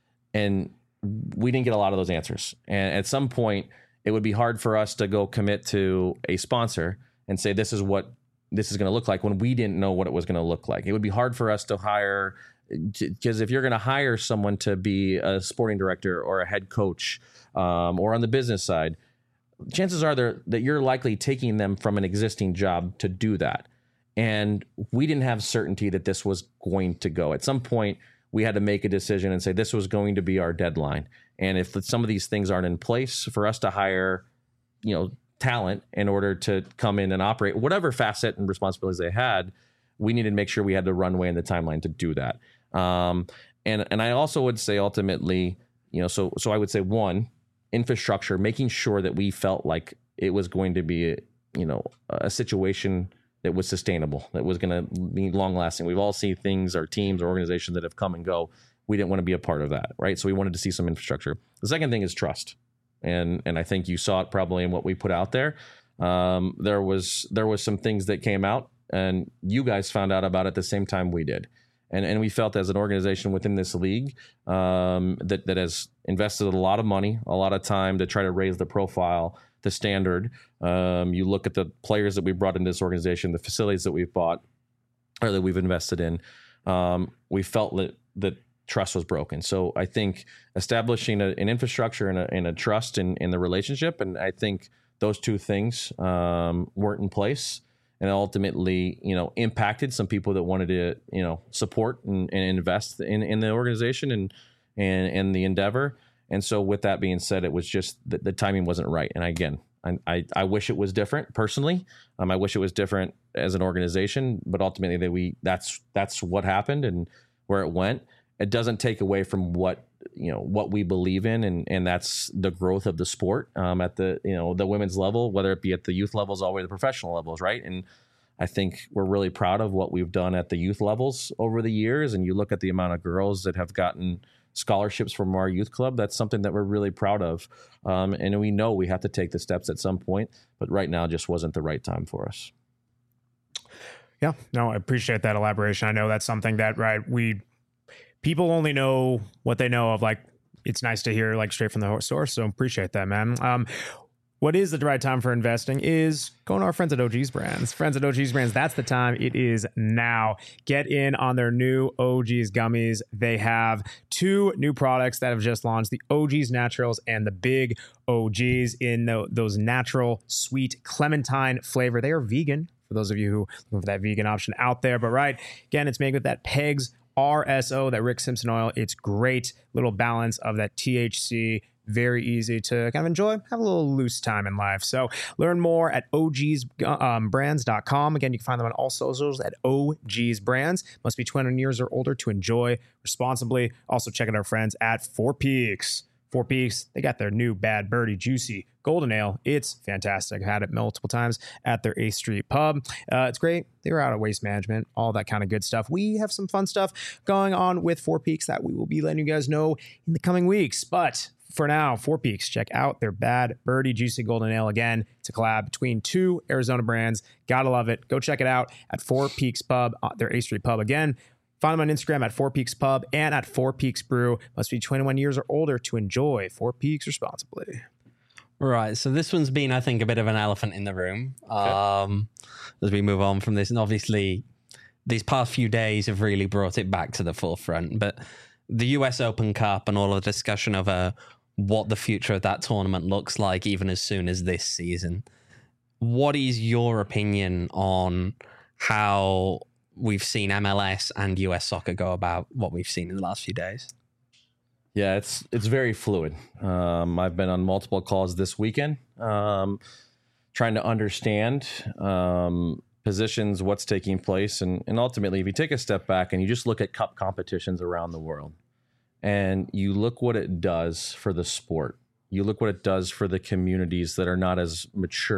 And we didn't get a lot of those answers. And at some point, it would be hard for us to go commit to a sponsor and say, this is what this is going to look like when we didn't know what it was going to look like. It would be hard for us to hire, because if you're going to hire someone to be a sporting director or a head coach, um, or on the business side, chances are there that you're likely taking them from an existing job to do that. And we didn't have certainty that this was going to go. At some point, we had to make a decision and say this was going to be our deadline. And if some of these things aren't in place for us to hire, you know, talent in order to come in and operate whatever facet and responsibilities they had, we needed to make sure we had the runway and the timeline to do that. Um, and, and I also would say ultimately, you know, so, so I would say one, infrastructure, making sure that we felt like it was going to be, a, you know, a situation that was sustainable, that was going to be long lasting. We've all seen things or teams or organizations that have come and go. We didn't want to be a part of that. Right. So we wanted to see some infrastructure. The second thing is trust. And, and I think you saw it probably in what we put out there. Um, there was, there was some things that came out and you guys found out about it at the same time we did. And and we felt as an organization within this league um, that, that has invested a lot of money, a lot of time to try to raise the profile, the standard. Um, you look at the players that we brought into this organization, the facilities that we've bought or that we've invested in. Um, we felt that, that trust was broken. So I think establishing a, an infrastructure and a, and a trust in, in the relationship, and I think those two things um, weren't in place. And ultimately, you know, impacted some people that wanted to, you know, support and, and invest in, in the organization and, and and the endeavor. And so with that being said, it was just the, the timing wasn't right. And again, I, I, I wish it was different personally. Um, I wish it was different as an organization, but ultimately that we that's that's what happened and where it went. It doesn't take away from what, you know, what we believe in. And, and that's the growth of the sport um, at the, you know, the women's level, whether it be at the youth levels, all the way to the professional levels. Right. And I think we're really proud of what we've done at the youth levels over the years. And you look at the amount of girls that have gotten scholarships from our youth club. That's something that we're really proud of. Um, and we know we have to take the steps at some point, but right now just wasn't the right time for us. Yeah, no, I appreciate that elaboration. I know that's something that, right, we, people only know what they know of. Like, it's nice to hear like straight from the source. So appreciate that, man. Um, what is the right time for investing is going to our friends at O G's Brands. Friends at O G's Brands, that's the time. It is now. Get in on their new O G's gummies. They have two new products that have just launched, the O G's Naturals and the Big O G's in the, those natural, sweet clementine flavor. They are vegan, for those of you who look for that vegan option out there. But right, again, it's made with that Pegs R S O, that Rick Simpson oil. It's great little balance of that T H C. Very easy to kind of enjoy, have a little loose time in life. So learn more at O Gs brands dot com. Again, you can find them on all socials at O Gs Brands. Must be twenty years or older to enjoy responsibly. Also check out our friends at Four Peaks. Four Peaks, they got their new Bad Birdie Juicy Golden Ale. It's fantastic. I've had it multiple times at their eighth Street pub. Uh, it's great. They're out of waste management, all that kind of good stuff. We have some fun stuff going on with Four Peaks that we will be letting you guys know in the coming weeks. But for now, Four Peaks, check out their Bad Birdie Juicy Golden Ale. Again, it's a collab between two Arizona brands. Gotta love it. Go check it out at Four Peaks Pub, uh, their eighth Street pub. Again, find them on Instagram at Four Peaks Pub and at Four Peaks Brew. Must be twenty-one years or older to enjoy Four Peaks responsibly. Right. So this one's been, I think, a bit of an elephant in the room okay. um, as we move on from this. And obviously, these past few days have really brought it back to the forefront. But the U S Open Cup and all of the discussion of uh, what the future of that tournament looks like, even as soon as this season. What is your opinion on how we've seen M L S and U S soccer go about what we've seen in the last few days? Yeah, it's it's very fluid. Um, I've been on multiple calls this weekend, um, trying to understand um, positions, what's taking place, and and ultimately, if you take a step back and you just look at cup competitions around the world, and you look what it does for the sport, you look what it does for the communities that are not as mature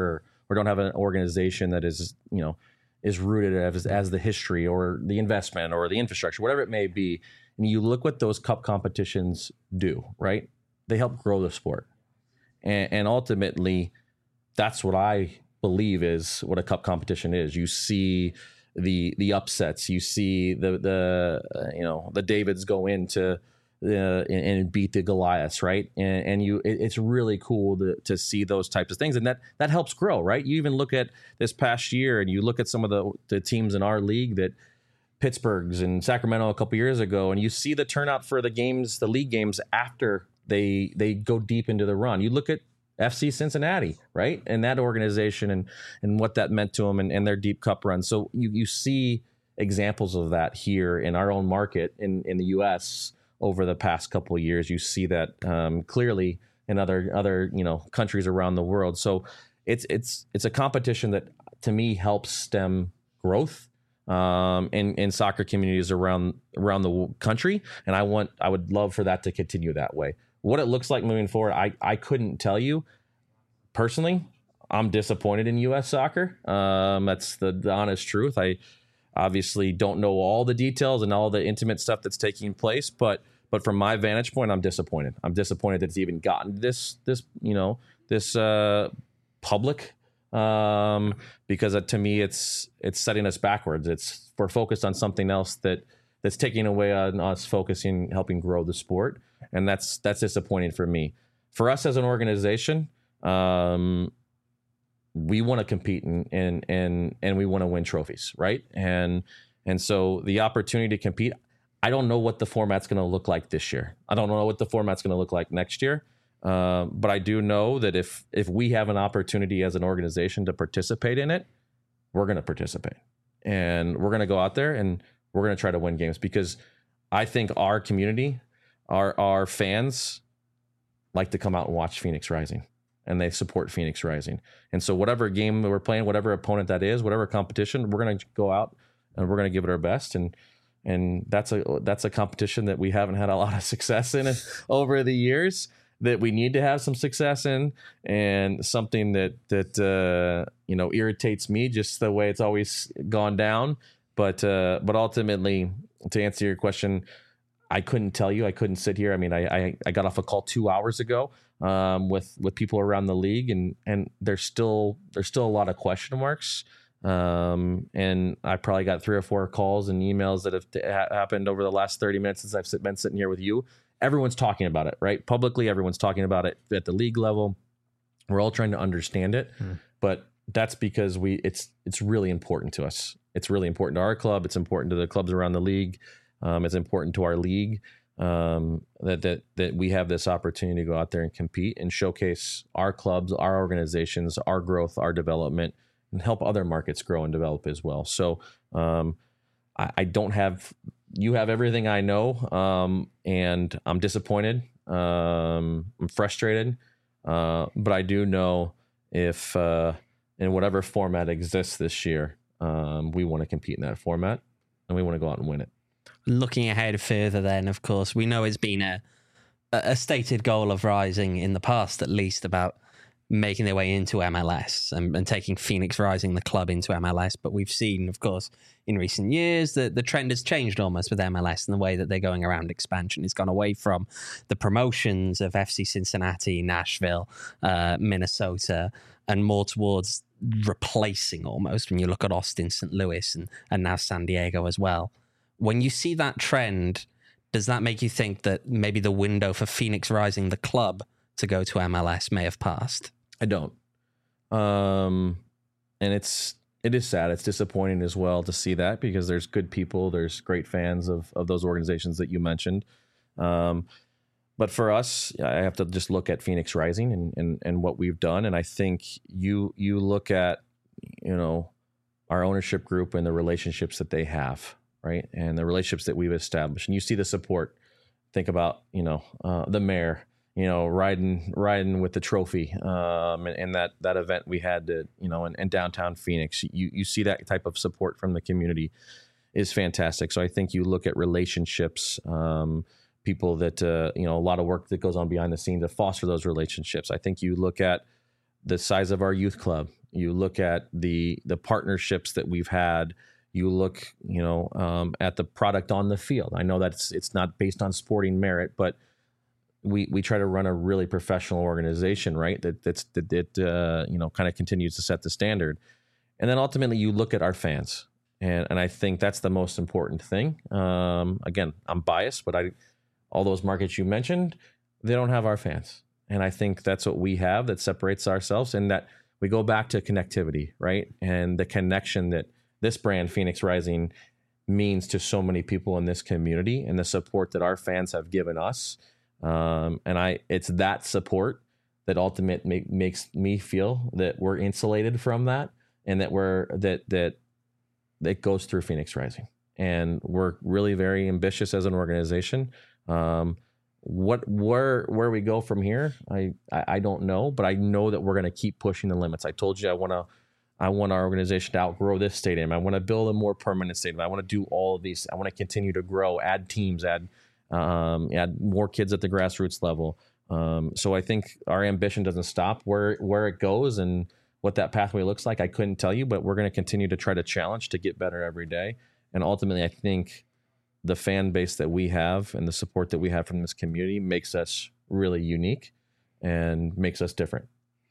or don't have an organization that is, you know, is rooted as, as the history or the investment or the infrastructure, whatever it may be. And you look what those cup competitions do, right? They help grow the sport. And, and ultimately, that's what I believe is what a cup competition is. You see the the upsets, you see the the uh, you know the Davids go into the and, and beat the Goliaths, right? And, and you, it, it's really cool to to see those types of things, and that that helps grow, right? You even look at this past year, and you look at some of the the teams in our league that Pittsburgh's and Sacramento a couple years ago, and you see the turnout for the games, the league games after they they go deep into the run. You look at F C Cincinnati, right? And that organization and and what that meant to them and, and their deep cup run. So you you see examples of that here in our own market in, in the U S over the past couple of years. You see that um, clearly in other other you know countries around the world. So it's it's it's a competition that to me helps stem growth um, in in soccer communities around around the country. And I want I would love for that to continue that way. What it looks like moving forward, I, I couldn't tell you. Personally, I'm disappointed in U S soccer. Um, that's the, the honest truth. I obviously don't know all the details and all the intimate stuff that's taking place, but but from my vantage point, I'm disappointed. I'm disappointed that it's even gotten this this you know this uh, public um, because uh, to me it's it's setting us backwards. It's we're focused on something else that that's taking away on us focusing, helping grow the sport. And that's that's disappointing for me. For us as an organization, um, we want to compete and and and and we want to win trophies, right? And and so the opportunity to compete, I don't know what the format's going to look like this year. I don't know what the format's going to look like next year. Um, but I do know that if if we have an opportunity as an organization to participate in it, we're going to participate, and we're going to go out there and we're going to try to win games because I think our community. Our our fans like to come out and watch Phoenix Rising, and they support Phoenix Rising. And so whatever game we're playing, whatever opponent that is, whatever competition, we're going to go out and we're going to give it our best. And and that's a that's a competition that we haven't had a lot of success in over the years, that we need to have some success in, and something that that uh, you know irritates me just the way it's always gone down. But uh, but ultimately, to answer your question, I couldn't tell you. I couldn't sit here. I mean, I, I, I got off a call two hours ago um, with with people around the league, and and there's still there's still a lot of question marks. Um, and I probably got three or four calls and emails that have ha- happened over the last thirty minutes since I've sit, been sitting here with you. Everyone's talking about it, right? Publicly, everyone's talking about it at the league level. We're all trying to understand it, hmm. but that's because we it's it's really important to us. It's really important to our club. It's important to the clubs around the league. Um, it's important to our league um, that that that we have this opportunity to go out there and compete and showcase our clubs, our organizations, our growth, our development, and help other markets grow and develop as well. So um, I, I don't have you have everything I know, um, and I'm disappointed. Um, I'm frustrated, uh, but I do know if uh, in whatever format exists this year, um, we want to compete in that format, and we want to go out and win it. Looking ahead further then, of course, we know it's been a a stated goal of Rising in the past, at least, about making their way into M L S and, and taking Phoenix Rising, the club, into M L S. But we've seen, of course, in recent years that the trend has changed almost with M L S and the way that they're going around expansion. It's gone away from the promotions of F C Cincinnati, Nashville, uh, Minnesota, and more towards replacing almost when you look at Austin, Saint Louis, and, and now San Diego as well. When you see that trend, does that make you think that maybe the window for Phoenix Rising, the club, to go to M L S may have passed? I don't. Um, and it's it is sad. It's disappointing as well to see that, because there's good people, there's great fans of of those organizations that you mentioned. Um, but for us, I have to just look at Phoenix Rising and and and what we've done. And I think you you look at, you know, our ownership group and the relationships that they have. Right. And the relationships that we've established, and you see the support. Think about, you know, uh, the mayor, you know, riding, riding with the trophy um, and, and that, that event we had to, you know, in, in downtown Phoenix, you, you see that type of support from the community is fantastic. So I think you look at relationships, um, people that, uh, you know, a lot of work that goes on behind the scenes to foster those relationships. I think you look at the size of our youth club You look at the the partnerships that we've had. You look, you know, um, at the product on the field. I know that it's it's not based on sporting merit, but we we try to run a really professional organization, right? That that's that, that uh, you know, kind of continues to set the standard. And then ultimately, you look at our fans, and and I think that's the most important thing. Um, again, I'm biased, but I all those markets you mentioned, they don't have our fans, and I think that's what we have that separates ourselves, and that we go back to connectivity, right? And the connection that this brand, Phoenix Rising, means to so many people in this community, and the support that our fans have given us. Um, and I, it's that support that ultimately make, makes me feel that we're insulated from that, and that we're that that that goes through Phoenix Rising. And we're really very ambitious as an organization. Um, what where where we go from here, I, I I don't know, but I know that we're going to keep pushing the limits. I told you I want to. I want our organization to outgrow this stadium. I want to build a more permanent stadium. I want to do all of these. I want to continue to grow, add teams, add um, add more kids at the grassroots level. Um, so I think our ambition doesn't stop. Where where it goes and what that pathway looks like, I couldn't tell you, but we're going to continue to try to challenge to get better every day. And ultimately, I think the fan base that we have and the support that we have from this community makes us really unique and makes us different.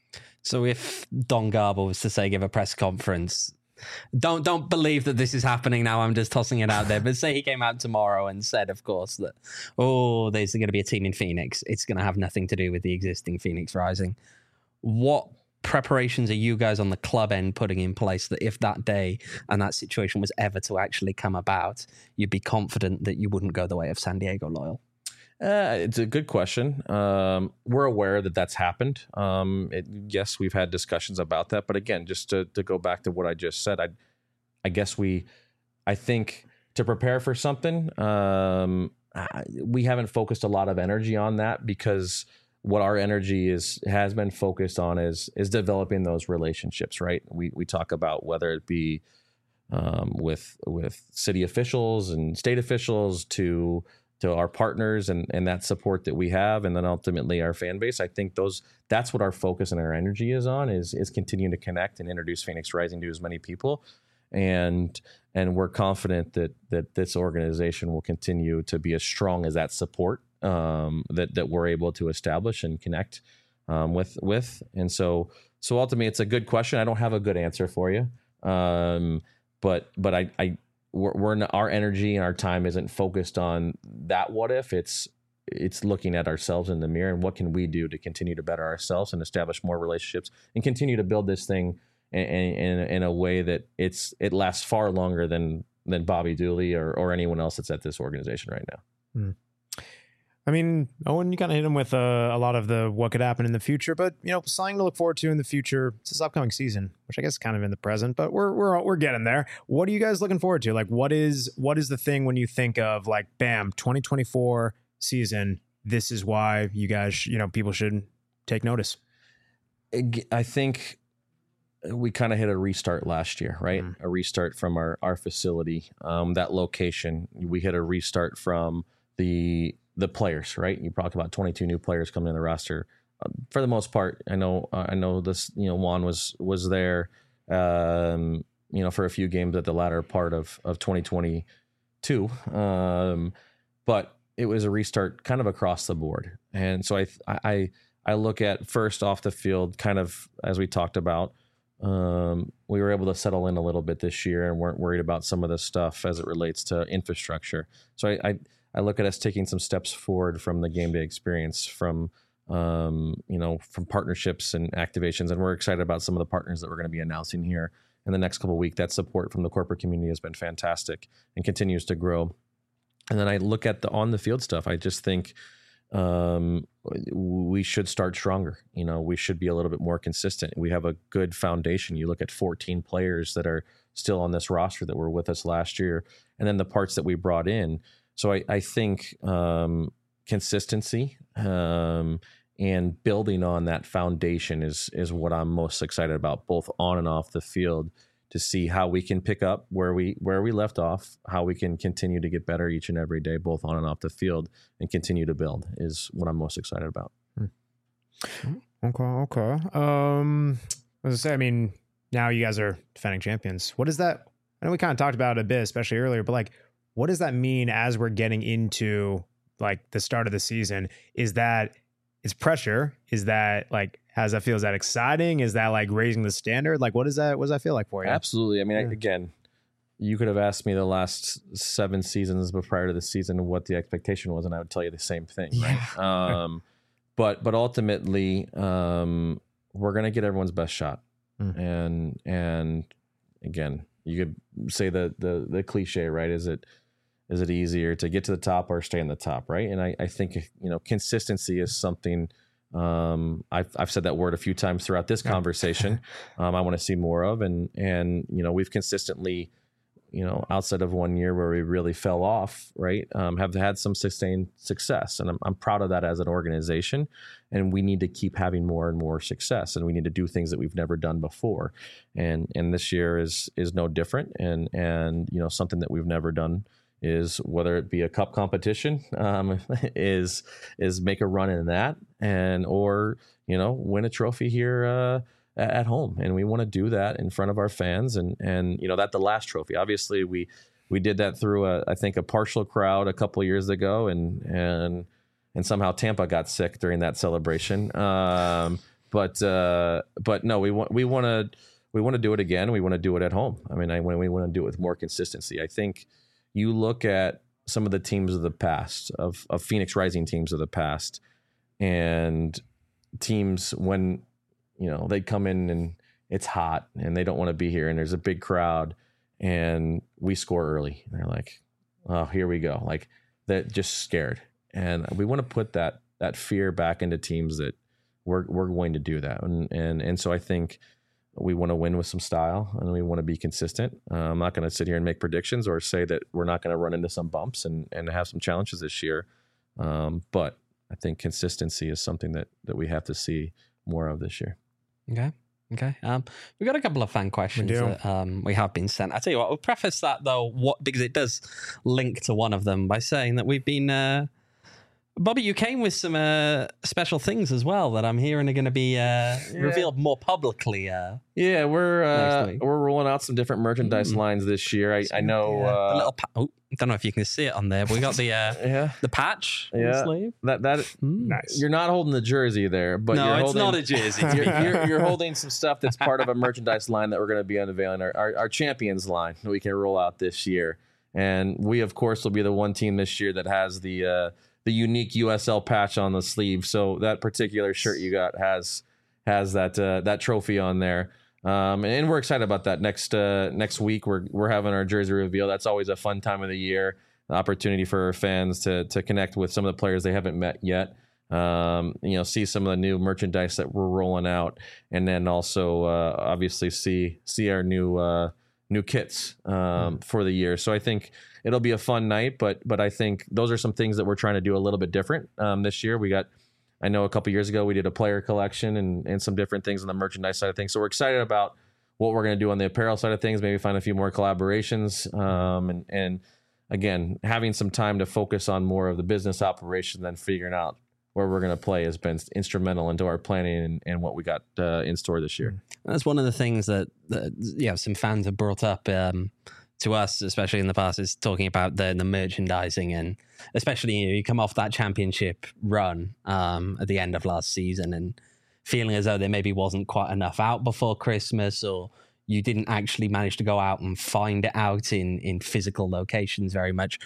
So if Don Garber was to say give a press conference, don't don't believe that this is happening now. I'm just tossing it out there. But say he came out tomorrow and said, of course, that, oh, there's going to be a team in Phoenix. It's going to have nothing to do with the existing Phoenix Rising. What preparations are you guys on the club end putting in place that if that day and that situation was ever to actually come about, you'd be confident that you wouldn't go the way of San Diego Loyal? Uh, it's a good question. Um, we're aware that that's happened. Um, it, yes, we've had discussions about that. But again, just to, to go back to what I just said, I, I guess we, I think to prepare for something, um, I, we haven't focused a lot of energy on that, because what our energy is has been focused on is is developing those relationships. Right? We we talk about whether it be um, with with city officials and state officials to to our partners and, and that support that we have, and then ultimately our fan base. I think those that's what our focus and our energy is on, is is continuing to connect and introduce Phoenix Rising to as many people. And and we're confident that that this organization will continue to be as strong as that support um, that that we're able to establish and connect um, with with. And so so ultimately, it's a good question. I don't have a good answer for you, um, but but I I. We're, we're not, our energy and our time isn't focused on that what if. It's it's looking at ourselves in the mirror and what can we do to continue to better ourselves and establish more relationships and continue to build this thing in, in, in a way that it's it lasts far longer than than Bobby Dooley or or anyone else that's at this organization right now. Mm. I mean, Owen, you kind of hit him with uh, a lot of the what could happen in the future, but you know, something to look forward to in the future. It's this upcoming season, which I guess is kind of in the present, but we're we're we're getting there. What are you guys looking forward to? Like, what is what is the thing when you think of like, bam, twenty twenty-four season? This is why you guys, you know, people should take notice. I think we kind of hit a restart last year, right? Mm. A restart from our our facility, um, that location. We hit a restart from the the players, right? You talked about twenty-two new players coming in the roster. Uh, for the most part, I know, uh, I know this, you know, Juan was, was there, um, you know, for a few games at the latter part of, of twenty twenty-two. Um, but it was a restart kind of across the board. And so I, I, I look at first off the field, kind of, as we talked about, um, we were able to settle in a little bit this year and weren't worried about some of the stuff as it relates to infrastructure. So I, I, I look at us taking some steps forward from the game day experience, from um, you know, from partnerships and activations, and we're excited about some of the partners that we're going to be announcing here in the next couple of weeks. That support from the corporate community has been fantastic and continues to grow. And then I look at the on the field stuff. I just think um, we should start stronger. You know, we should be a little bit more consistent. We have a good foundation. You look at fourteen players that are still on this roster that were with us last year, and then the parts that we brought in. So I, I think um, consistency um, and building on that foundation is is what I'm most excited about, both on and off the field, to see how we can pick up where we where we left off, how we can continue to get better each and every day, both on and off the field, and continue to build is what I'm most excited about. Okay, okay. Um, as I say, I mean, now you guys are defending champions. What is that? I know we kind of talked about it a bit, especially earlier, but like, what does that mean as we're getting into like the start of the season? Is that it's pressure? Is that like, how's that feel? Is that exciting? Is that like raising the standard? Like, what does that, what does that feel like for you? Absolutely. I mean, Yeah. I, again, you could have asked me the last seven seasons, but prior to the season, what the expectation was, and I would tell you the same thing. Right. Yeah. Um, but, but ultimately, um, we're going to get everyone's best shot. Mm. And, and again, you could say the, the, the cliche, right? Is it, is it easier to get to the top or stay in the top? Right. And I, I think, you know, consistency is something, um, I've, I've said that word a few times throughout this conversation. um, I want to see more of, and, and, you know, we've consistently, you know, outside of one year where we really fell off, right, um, have had some sustained success. And I'm, I'm proud of that as an organization. And we need to keep having more and more success. And we need to do things that we've never done before. And and this year is is no different. And, and you know, something that we've never done is, whether it be a cup competition, um, is is make a run in that, and or, you know, win a trophy here uh at home. And we want to do that in front of our fans. And, and, you know, that the last trophy, obviously we, we did that through a, I think a partial crowd a couple of years ago, and, and, and somehow Tampa got sick during that celebration. Um, but, uh, but no, we want, we want to, we want to do it again. We want to do it at home. I mean, I, when we want to do it with more consistency. I think you look at some of the teams of the past, of, of Phoenix Rising teams of the past, and teams when, you know, they come in and it's hot and they don't want to be here and there's a big crowd and we score early. And they're like, oh, here we go. Like, that, just scared. And we want to put that, that fear back into teams that we're, we're going to do that. And, and, and so I think we want to win with some style, and we want to be consistent. Uh, I'm not going to sit here and make predictions or say that we're not going to run into some bumps and, and have some challenges this year. Um, but I think consistency is something that, that we have to see more of this year. Okay. Okay. Um, we've got a couple of fan questions do. that um, we have been sent. I tell you what, we'll preface that though, what because it does link to one of them by saying that we've been. Uh, Bobby, you came with some uh, special things as well that I'm hearing are going to be uh, yeah. revealed more publicly. Uh, yeah, we're uh, week. we're rolling out some different merchandise mm. lines this year. I, I know. Yeah. Uh, the little pa- oh, I don't know if you can see it on there, but we got the uh, yeah. the patch. Yeah, the sleeve. that that mm. Nice. You're not holding the jersey there, but no, you're it's holding, not a jersey. you're, you're, you're holding some stuff that's part of a merchandise line that we're going to be unveiling, our, our our champions line that we can roll out this year. And we, of course, will be the one team this year that has the uh, the unique U S L patch on the sleeve. So that particular shirt you got has has that uh, that trophy on there. Um, and we're excited about that. Next uh, next week, we're we're having our jersey reveal. That's always a fun time of the year. The opportunity for our fans to to connect with some of the players they haven't met yet. Um, you know, see some of the new merchandise that we're rolling out, and then also uh, obviously see see our new uh, new kits um, mm. for the year. So I think it'll be a fun night. But but I think those are some things that we're trying to do a little bit different um, this year. We got, I know a couple years ago we did a player collection and and some different things on the merchandise side of things. So we're excited about what we're going to do on the apparel side of things. Maybe find a few more collaborations um, and and. Again, having some time to focus on more of the business operation than figuring out where we're going to play has been instrumental into our planning and, and what we got uh, in store this year. That's one of the things that, that you know, some fans have brought up um, to us, especially in the past, is talking about the the merchandising, and especially you know, you come off that championship run um, at the end of last season and feeling as though there maybe wasn't quite enough out before Christmas, or you didn't actually manage to go out and find it out in, in physical locations very much.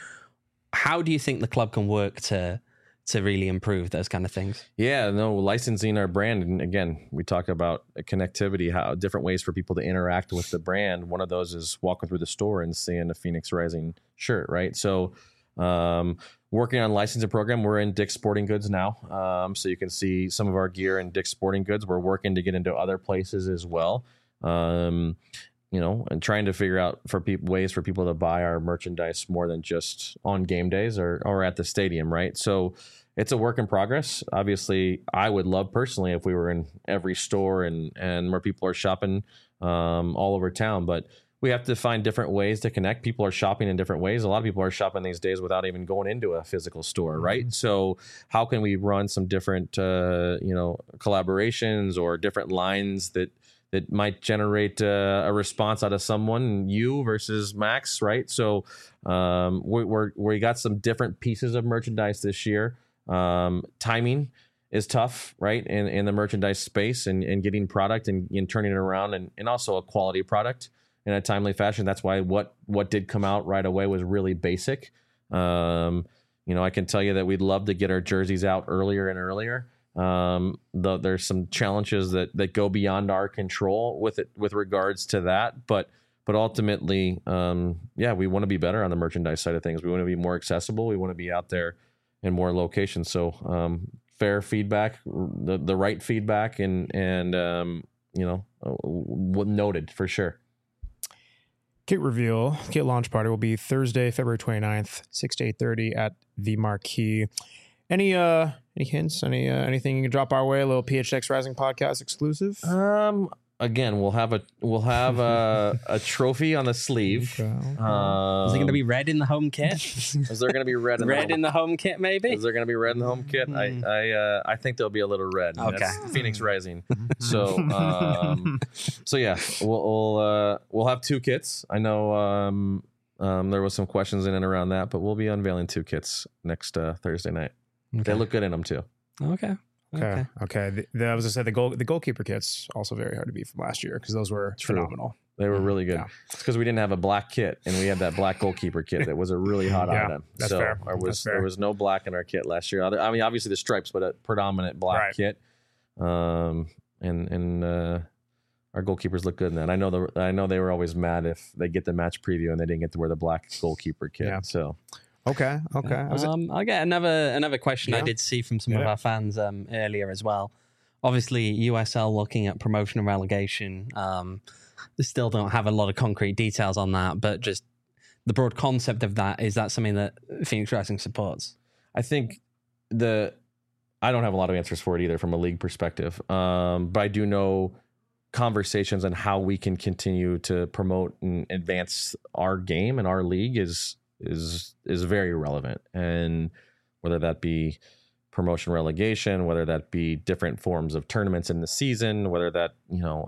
How do you think the club can work to to really improve those kind of things? Yeah, no, licensing our brand. And again, we talk about connectivity, how different ways for people to interact with the brand. One of those is walking through the store and seeing a Phoenix Rising shirt, right? So um, working on licensing program, we're in Dick's Sporting Goods now. Um, so you can see some of our gear in Dick's Sporting Goods. We're working to get into other places as well. Um, you know, and trying to figure out for people ways for people to buy our merchandise more than just on game days or, or at the stadium. Right. So it's a work in progress. Obviously, I would love personally if we were in every store and, and where people are shopping um, all over town, but we have to find different ways to connect. People are shopping in different ways. A lot of people are shopping these days without even going into a physical store, right? Mm-hmm. So how can we run some different, uh, you know, collaborations or different lines that that might generate uh, a response out of someone, you versus Max, right? So um, we, we're we got some different pieces of merchandise this year. Um, timing is tough, right? In in the merchandise space and, and getting product and, and turning it around and, and also a quality product in a timely fashion. That's why what what did come out right away was really basic. Um, you know, I can tell you that we'd love to get our jerseys out earlier and earlier. Um, the, there's some challenges that that go beyond our control with it with regards to that, but but ultimately, um, yeah, we want to be better on the merchandise side of things. We want to be more accessible. We want to be out there in more locations. So um, fair feedback, the the right feedback, and and um, you know, uh, noted for sure. Kit reveal, kit launch party will be Thursday, February twenty-ninth, six to eight thirty at the Marquee. Any uh any hints? Any uh, anything you can drop our way? A little P H X Rising podcast exclusive. Um, again, we'll have a we'll have a, a trophy on the sleeve. Okay. Um, Is it going to be red in the home kit? Is there going to be red in red the home, in the home kit, maybe? Is there going to be red in the home kit? I I uh, I think there'll be a little red. Okay. That's Phoenix Rising. So um, so yeah, we'll we'll, uh, we'll have two kits. I know um, um, there was some questions in and around that, but we'll be unveiling two kits next uh, Thursday night. Okay. They look good in them too. Okay. Okay. Okay. Okay. The, the, I was gonna say the goal the goalkeeper kits also very hard to beat from last year because those were True. phenomenal. They were really good. Yeah. It's because we didn't have a black kit, and we had that black goalkeeper kit that was a really hot Yeah, item. that's so fair. There was That's fair. there was no black in our kit last year. Other, I mean, obviously the stripes, but a predominant black Right. kit. Um, and and uh, our goalkeepers look good in that. I know the I know they were always mad if they get the match preview and they didn't get to wear the black goalkeeper kit. Yeah. So Okay. Okay. I was- Um, I get another another question I Yeah. did see from some of Yeah. our fans um, earlier as well. Obviously, U S L looking at promotion and relegation. Um, they still don't have a lot of concrete details on that, but just the broad concept of that, is that something that Phoenix Rising supports? I think the I don't have a lot of answers for it either from a league perspective. Um, but I do know conversations on how we can continue to promote and advance our game and our league is is is very relevant. And whether that be promotion relegation, whether that be different forms of tournaments in the season, whether that, you know,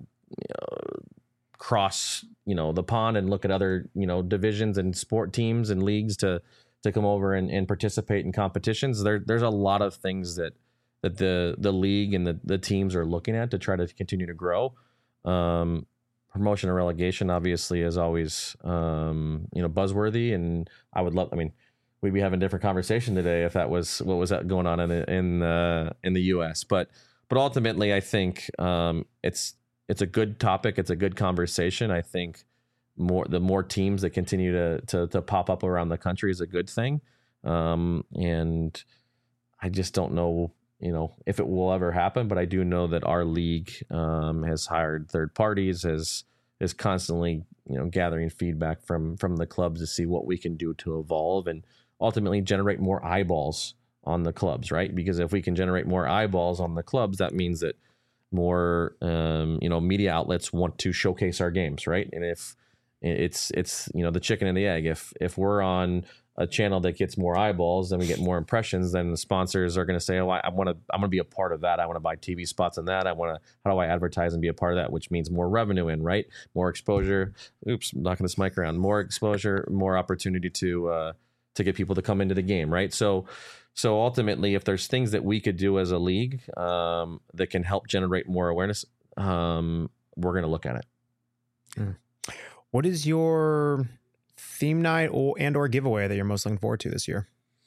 uh, cross, you know, the pond and look at other, you know, divisions and sport teams and leagues to to come over and, and participate in competitions. There there's a lot of things that that the the league and the, the teams are looking at to try to continue to grow. Um, promotion and relegation obviously is always um, you know, buzzworthy, and I would love I mean we'd be having a different conversation today if that was what was going on in the, in the in the U S. But but ultimately, I think um, it's it's a good topic. It's a good conversation. I think more the more teams that continue to to, to pop up around the country is a good thing. Um, and I just don't know, you know, if it will ever happen. But I do know that our league um, has hired third parties, has is constantly, you know, gathering feedback from from the clubs to see what we can do to evolve and ultimately generate more eyeballs on the clubs, right? Because if we can generate more eyeballs on the clubs, that means that more, um, you know, media outlets want to showcase our games, right? And if it's it's you know, the chicken and the egg, if if we're on a channel that gets more eyeballs, then we get more impressions, then the sponsors are going to say, oh, I, I want to, I'm going to be a part of that. I want to buy T V spots on that. I want to, how do I advertise and be a part of that? Which means more revenue in, right? More exposure. Oops, knocking this mic around. More exposure, more opportunity to, uh, to get people to come into the game, right? So, so ultimately, if there's things that we could do as a league um, that can help generate more awareness, um, we're going to look at it. Mm. What is your theme night or and or giveaway that you're most looking forward to this year?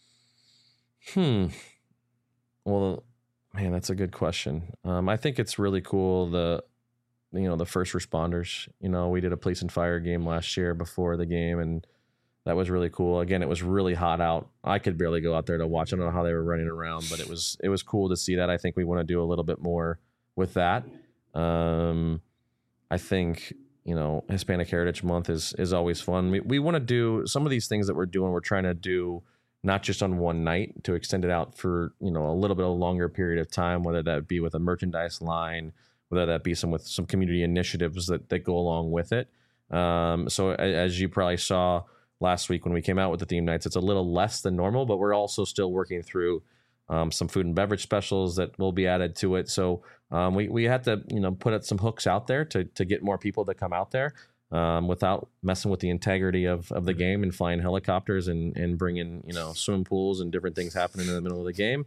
Hmm. Well, man, that's a good question. Um, I think it's really cool. The, you know, the first responders, you know, we did a police and fire game last year before the game, and that was really cool. Again, it was really hot out. I could barely go out there to watch. I don't know how they were running around, but it was, it was cool to see that. I think we want to do a little bit more with that. Um, I think, you know, Hispanic Heritage Month is is always fun. We we want to do some of these things that we're doing. We're trying to do not just on one night, to extend it out for, you know, a little bit of a longer period of time, whether that be with a merchandise line, whether that be some with some community initiatives that, that go along with it. Um, so as you probably saw last week when we came out with the theme nights, it's a little less than normal, but we're also still working through um, some food and beverage specials that will be added to it. So um, we we had to you know put up some hooks out there to to get more people to come out there. Um, without messing with the integrity of, of the game and flying helicopters and, and bringing, you know, swimming pools and different things happening in the middle of the game.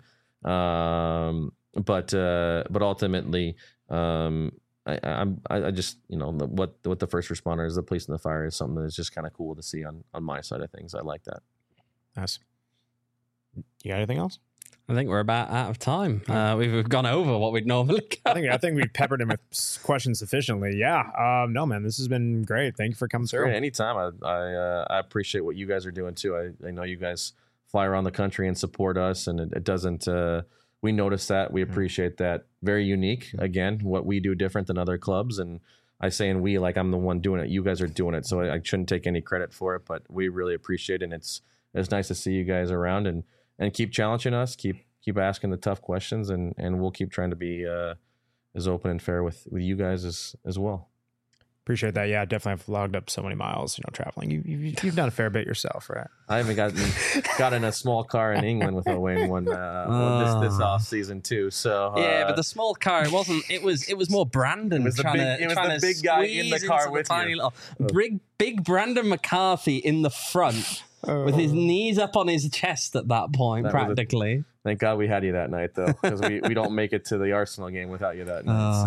Um, but uh, but ultimately, um, I, I'm I, I just you know the, what what the first responders, the police and the fire is something that's just kind of cool to see on on my side of things. I like that. Nice. You got anything else? I think we're about out of time. Uh, we've, we've gone over what we'd normally go. I think I think we've peppered him with questions sufficiently. Yeah. Um, no, man, this has been great. Thank you for coming through. Great. Anytime. I I, uh, I appreciate what you guys are doing too. I, I know you guys fly around the country and support us, and it, it doesn't. Uh, we notice that. We appreciate that. Very unique. Again, what we do different than other clubs, and I say and we like I'm the one doing it. You guys are doing it, so I, I shouldn't take any credit for it. But we really appreciate it. And it's it's nice to see you guys around and and keep challenging us. Keep. Keep asking the tough questions, and, and we'll keep trying to be uh, as open and fair with, with you guys as as well. Appreciate that. Yeah, definitely have logged up so many miles, you know, traveling. You, you, you've done a fair bit yourself, right? I haven't gotten got in a small car in England with Owain one, uh, one this, this off season too. So uh, yeah, but the small car, it wasn't. It was. It was more Brandon. It was the trying big, to, it was trying the to big guy in the car with the tiny you. Little, big, big Brandon McCarthy in the front Oh. with his knees up on his chest at that point, That was a- practically. Thank God we had you that night, though, because we, we don't make it to the Arsenal game without you that night.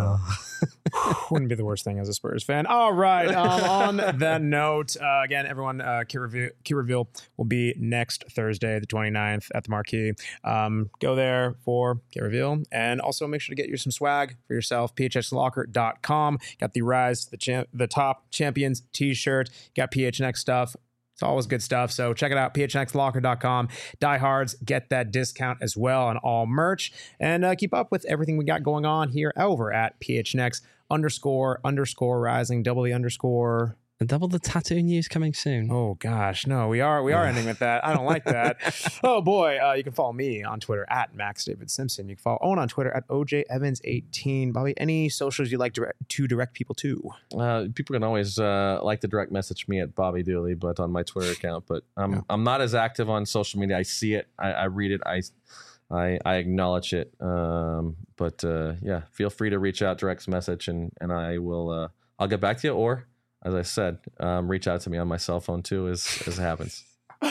So. Wouldn't be the worst thing as a Spurs fan. All right. Um, on that note, uh, again, everyone, uh, Key Reveal, Key Reveal will be next Thursday, the twenty-ninth at the Marquee. Um, go there for Key Reveal. And also make sure to get you some swag for yourself. P H X locker dot com. Got the Rise to the, champ- the Top Champions t-shirt. Got P H N X stuff. It's always good stuff. So check it out, P H N X locker dot com. Diehards, get that discount as well on all merch. And uh, keep up with everything we got going on here over at P H N X underscore underscore rising, double the underscore. And double the tattoo news coming soon. Oh gosh, no, we are we are ending with that. I don't like that. Oh boy, uh, you can follow me on Twitter at Max David Simpson. You can follow Owen on Twitter at O J Evans eighteen. Bobby, any socials you'd like direct, to direct people to? Uh, people can always uh, like to direct message me at Bobby Dooley, but on my Twitter account. But I'm Yeah. I'm not as active on social media. I see it, I, I read it, I I, I acknowledge it. Um, but uh, yeah, feel free to reach out, direct message, and and I will uh, I'll get back to you. Or as I said, um, reach out to me on my cell phone too, as as it happens.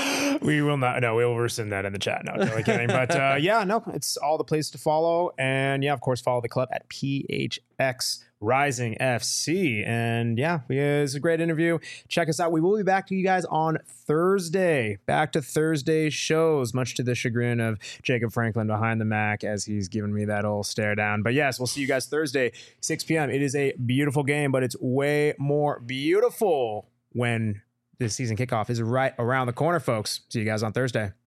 We will not. No, we will rescind that in the chat. No, totally kidding. But uh, yeah, no, it's all the places to follow. And yeah, of course, follow the club at P H X Rising F C. And yeah, it's a great interview. Check us out. We will be back to you guys on Thursday. Back to Thursday shows, much to the chagrin of Jacob Franklin behind the Mac as he's giving me that old stare down. But yes, we'll see you guys Thursday, six p.m. It is a beautiful game, but it's way more beautiful when this season kickoff is right around the corner, folks. See you guys on Thursday.